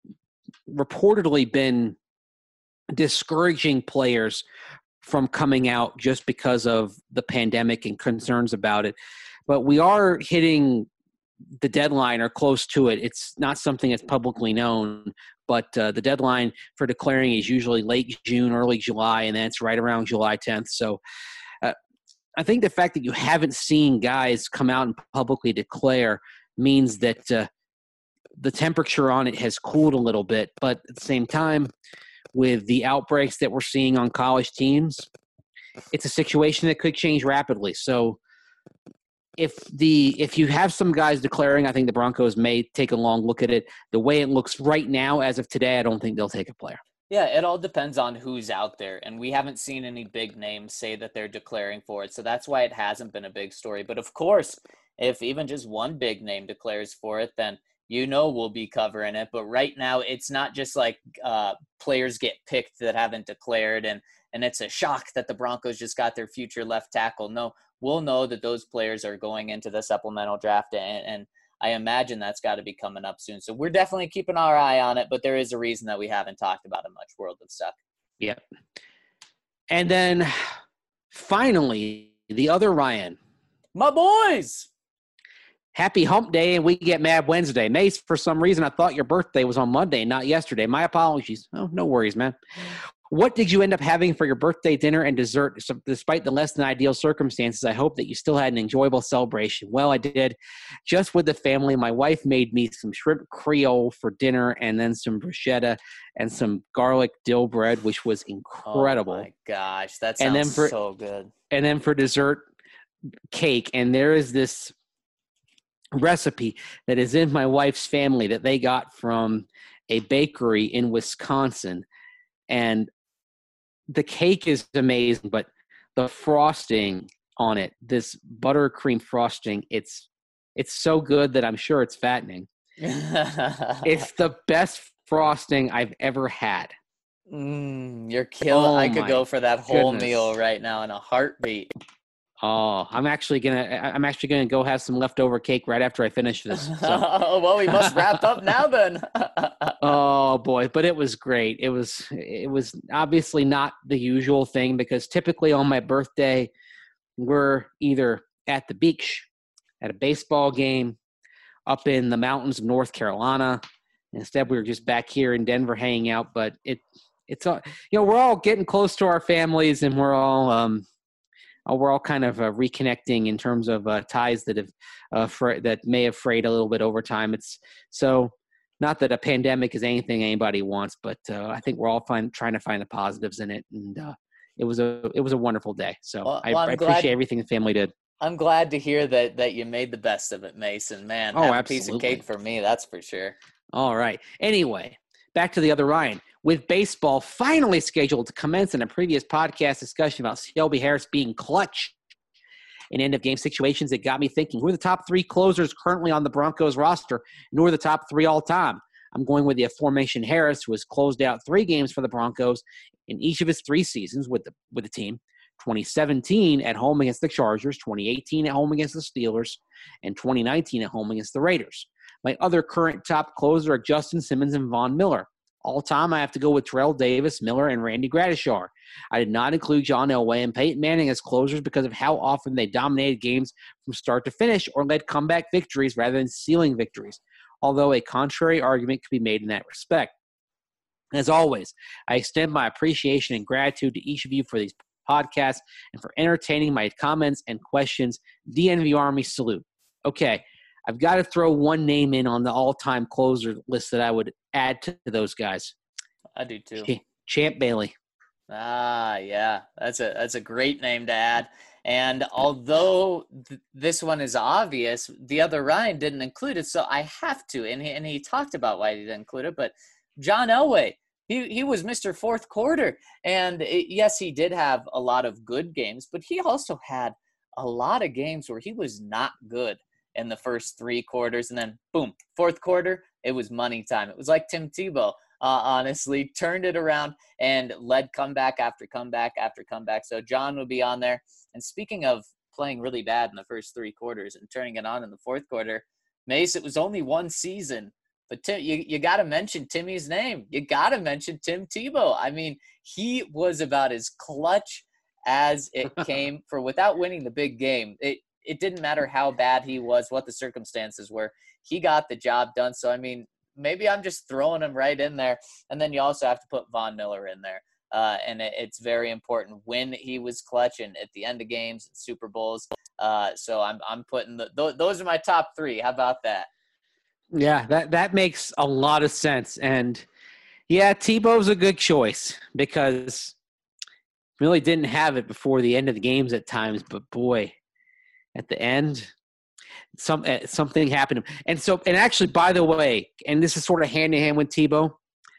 reportedly been discouraging players from coming out just because of the pandemic and concerns about it. But we are hitting the deadline or close to it. It's not something that's publicly known, but uh, the deadline for declaring is usually late June, early July, and then it's right around July tenth. So uh, I think the fact that you haven't seen guys come out and publicly declare means that uh, the temperature on it has cooled a little bit. But at the same time, with the outbreaks that we're seeing on college teams, it's a situation that could change rapidly. So if the if you have some guys declaring, I think the Broncos may take a long look at it. The way it looks right now, as of today, I don't think they'll take a player. Yeah, it all depends on who's out there, and we haven't seen any big names say that they're declaring for it, so that's why it hasn't been a big story. But of course, if even just one big name declares for it, then you know we'll be covering it. But right now, it's not just like uh, players get picked that haven't declared, and, and it's a shock that the Broncos just got their future left tackle. No, we'll know that those players are going into the supplemental draft, and, and I imagine that's got to be coming up soon. So we're definitely keeping our eye on it, but there is a reason that we haven't talked about it much. World of Suck. Yep. And then finally, the other Ryan. My boys! Happy hump day, and we get Mad Wednesday. Mace, for some reason, I thought your birthday was on Monday, not yesterday. My apologies. Oh, no worries, man. What did you end up having for your birthday dinner and dessert? So despite the less than ideal circumstances, I hope that you still had an enjoyable celebration. Well, I did. Just with the family, my wife made me some shrimp creole for dinner and then some bruschetta and some garlic dill bread, which was incredible. Oh, my gosh. That And sounds then for- so good. And then for dessert, cake. And there is this recipe that is in my wife's family that they got from a bakery in Wisconsin. And the cake is amazing, but the frosting on it, this buttercream frosting, it's it's so good that I'm sure it's fattening. It's the best frosting I've ever had. Mm, you're killing. Oh, I could my go for that whole goodness. meal right now in a heartbeat. Oh, I'm actually gonna I'm actually gonna go have some leftover cake right after I finish this. So. Well, we must wrap up now then. Oh boy, but it was great. It was it was obviously not the usual thing because typically on my birthday we're either at the beach, at a baseball game, up in the mountains of North Carolina. Instead, we were just back here in Denver hanging out. But it it's all you know we're all getting close to our families and we're all um we're all kind of uh, reconnecting in terms of uh, ties that have uh, fra- that may have frayed a little bit over time. It's so. Not that a pandemic is anything anybody wants, but uh, I think we're all find, trying to find the positives in it, and uh, it was a it was a wonderful day. So Well, I, well, I'm I glad- appreciate everything the family did. I'm glad to hear that that you made the best of it, Mason. Man, Oh, have a piece of absolutely. cake for me, that's for sure. All right. Anyway, back to the other Ryan. With baseball finally scheduled to commence in a previous podcast discussion about Shelby Harris being clutch in end-of-game situations, it got me thinking, who are the top three closers currently on the Broncos roster, and who are the top three all-time? I'm going with the aforementioned Harris, who has closed out three games for the Broncos in each of his three seasons with the with the team. twenty seventeen at home against the Chargers, twenty eighteen at home against the Steelers, and twenty nineteen at home against the Raiders. My other current top closer are Justin Simmons and Von Miller. All time, I have to go with Terrell Davis, Miller, and Randy Gradishar. I did not include John Elway and Peyton Manning as closers because of how often they dominated games from start to finish or led comeback victories rather than sealing victories, although a contrary argument could be made in that respect. As always, I extend my appreciation and gratitude to each of you for these podcasts and for entertaining my comments and questions. D N V Army salute. Okay, I've got to throw one name in on the all-time closer list that I would add to those guys. I do too. Ch- Champ Bailey. Ah, yeah, that's a that's a great name to add. And although th- this one is obvious, the other Ryan didn't include it, so I have to. And he, and he talked about why he didn't include it, but John Elway, he he was Mister Fourth Quarter, and it, yes, he did have a lot of good games, but he also had a lot of games where he was not good in the first three quarters, and then boom, fourth quarter, it was money time. It was like Tim Tebow. Uh, honestly, turned it around and led comeback after comeback after comeback. So John will be on there. And speaking of playing really bad in the first three quarters and turning it on in the fourth quarter, Mace, it was only one season. But Tim, you, you got to mention Timmy's name. You got to mention Tim Tebow. I mean, he was about as clutch as it came for without winning the big game. It, it didn't matter how bad he was, what the circumstances were. He got the job done. So, I mean, maybe I'm just throwing him right in there. And then you also have to put Von Miller in there. Uh, and it, it's very important when he was clutch and at the end of games and Super Bowls. Uh, so I'm I'm putting the, th- those are my top three. How about that? Yeah, that, that makes a lot of sense. And, yeah, Tebow's a good choice because really didn't have it before the end of the games at times. But, boy, at the end – Some uh, something happened, and so and actually, by the way, and this is sort of hand in hand with Tebow,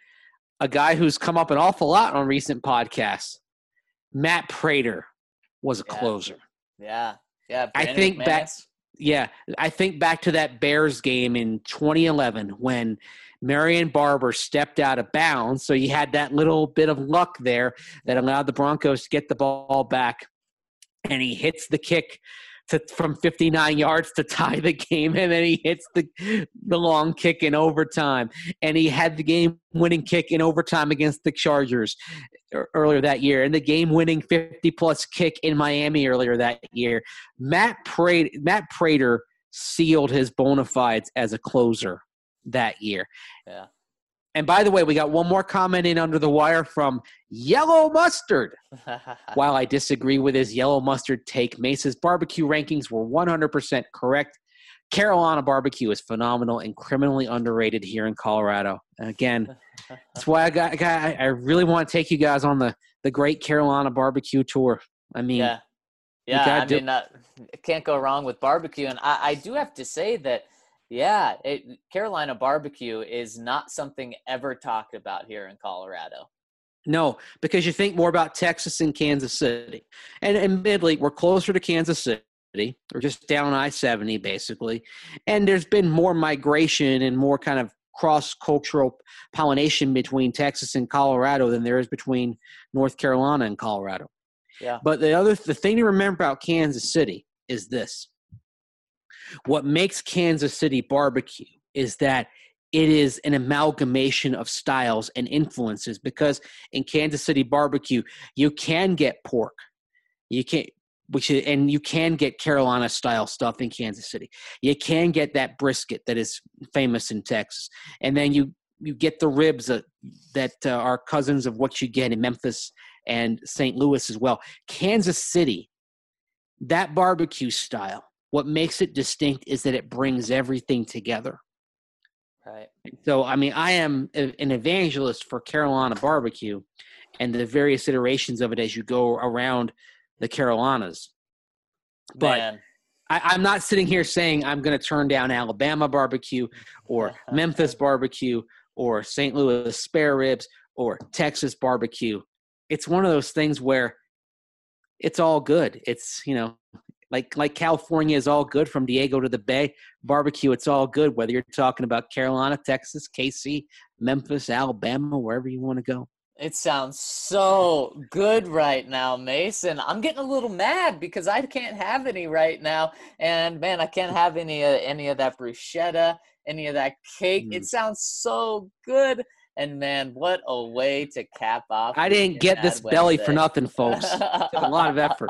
a guy who's come up an awful lot on recent podcasts. Matt Prater was a Yeah. closer. Yeah, yeah. I Brandon think back, McManus. yeah, I think back to that Bears game in twenty eleven when Marion Barber stepped out of bounds. So you had that little bit of luck there that allowed the Broncos to get the ball back, and he hits the kick to, from fifty-nine yards to tie the game, and then he hits the the long kick in overtime. And he had the game-winning kick in overtime against the Chargers earlier that year, and the game-winning fifty-plus kick in Miami earlier that year. Matt Prater, Matt Prater sealed his bona fides as a closer that year. Yeah. And by the way, we got one more comment in under the wire from Yellow Mustard. While I disagree with his Yellow Mustard take, Mesa's barbecue rankings were one hundred percent correct. Carolina barbecue is phenomenal and criminally underrated here in Colorado. Again, that's why I got, I got I really want to take you guys on the, the Great Carolina Barbecue Tour. I mean, yeah, yeah. I do- mean, uh, can't go wrong with barbecue. And I, I do have to say that, yeah, it, Carolina barbecue is not something ever talked about here in Colorado. No, because you think more about Texas and Kansas City. And admittedly, we're closer to Kansas City. We're just down I seventy, basically. And there's been more migration and more kind of cross-cultural pollination between Texas and Colorado than there is between North Carolina and Colorado. Yeah. But the other the thing to remember about Kansas City is this. What makes Kansas City barbecue is that it is an amalgamation of styles and influences, because in Kansas City barbecue, you can get pork. You can which is, and you can get Carolina style stuff in Kansas City. You can get that brisket that is famous in Texas. And then you you get the ribs uh, that uh, are cousins of what you get in Memphis and Saint Louis as well. Kansas City, that barbecue style, what makes it distinct is that it brings everything together. Right. So, I mean, I am a, an evangelist for Carolina barbecue and the various iterations of it as you go around the Carolinas. But Man. I, I'm not sitting here saying I'm going to turn down Alabama barbecue or Memphis barbecue or Saint Louis spare ribs or Texas barbecue. It's one of those things where it's all good. It's, you know, like like California is all good from Diego to the Bay. Barbecue, it's all good, whether you're talking about Carolina, Texas, K C, Memphis, Alabama, wherever you want to go. It sounds so good right now, Mason. I'm getting a little mad because I can't have any right now. And, man, I can't have any, uh, any of that bruschetta, any of that cake. Mm. It sounds so good. And, man, what a way to cap off. I didn't get this Wednesday. Belly for nothing, folks. It took a lot of effort.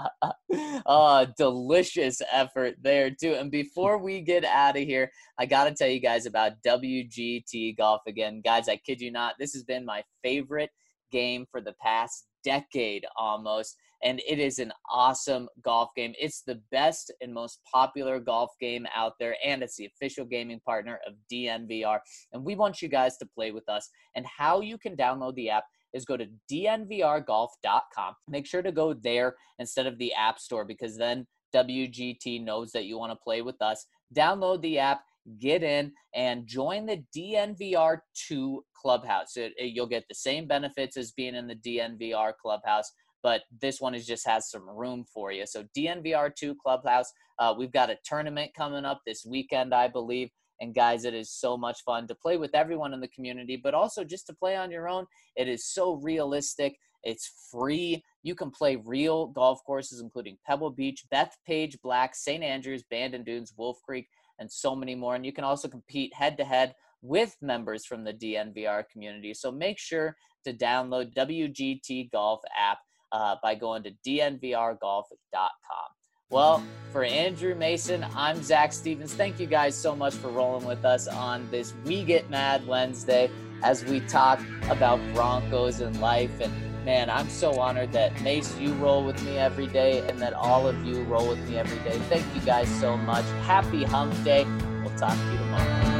Oh, delicious effort there, too. And before we get out of here, I got to tell you guys about W G T Golf again. Guys, I kid you not, this has been my favorite game for the past decade almost. And it is an awesome golf game. It's the best and most popular golf game out there, and it's the official gaming partner of D N V R. And we want you guys to play with us. And how you can download the app is go to D N V R golf dot com. Make sure to go there instead of the App Store, because then W G T knows that you want to play with us. Download the app, get in, and join the D N V R two Clubhouse. It, it, you'll get the same benefits as being in the D N V R Clubhouse, but this one is just has some room for you. So D N V R two Clubhouse, uh, we've got a tournament coming up this weekend, I believe. And guys, it is so much fun to play with everyone in the community, but also just to play on your own. It is so realistic. It's free. You can play real golf courses, including Pebble Beach, Bethpage Black, Saint Andrews, Bandon Dunes, Wolf Creek, and so many more. And you can also compete head-to-head with members from the D N V R community. So make sure to download W G T Golf app uh, by going to D N V R golf dot com. Well, for Andrew Mason, I'm Zach Stevens. Thank you guys so much for rolling with us on this We Get Mad Wednesday as we talk about Broncos and life. And man, I'm so honored that Mace, you roll with me every day, and that all of you roll with me every day. Thank you guys so much. Happy Hump Day. We'll talk to you tomorrow.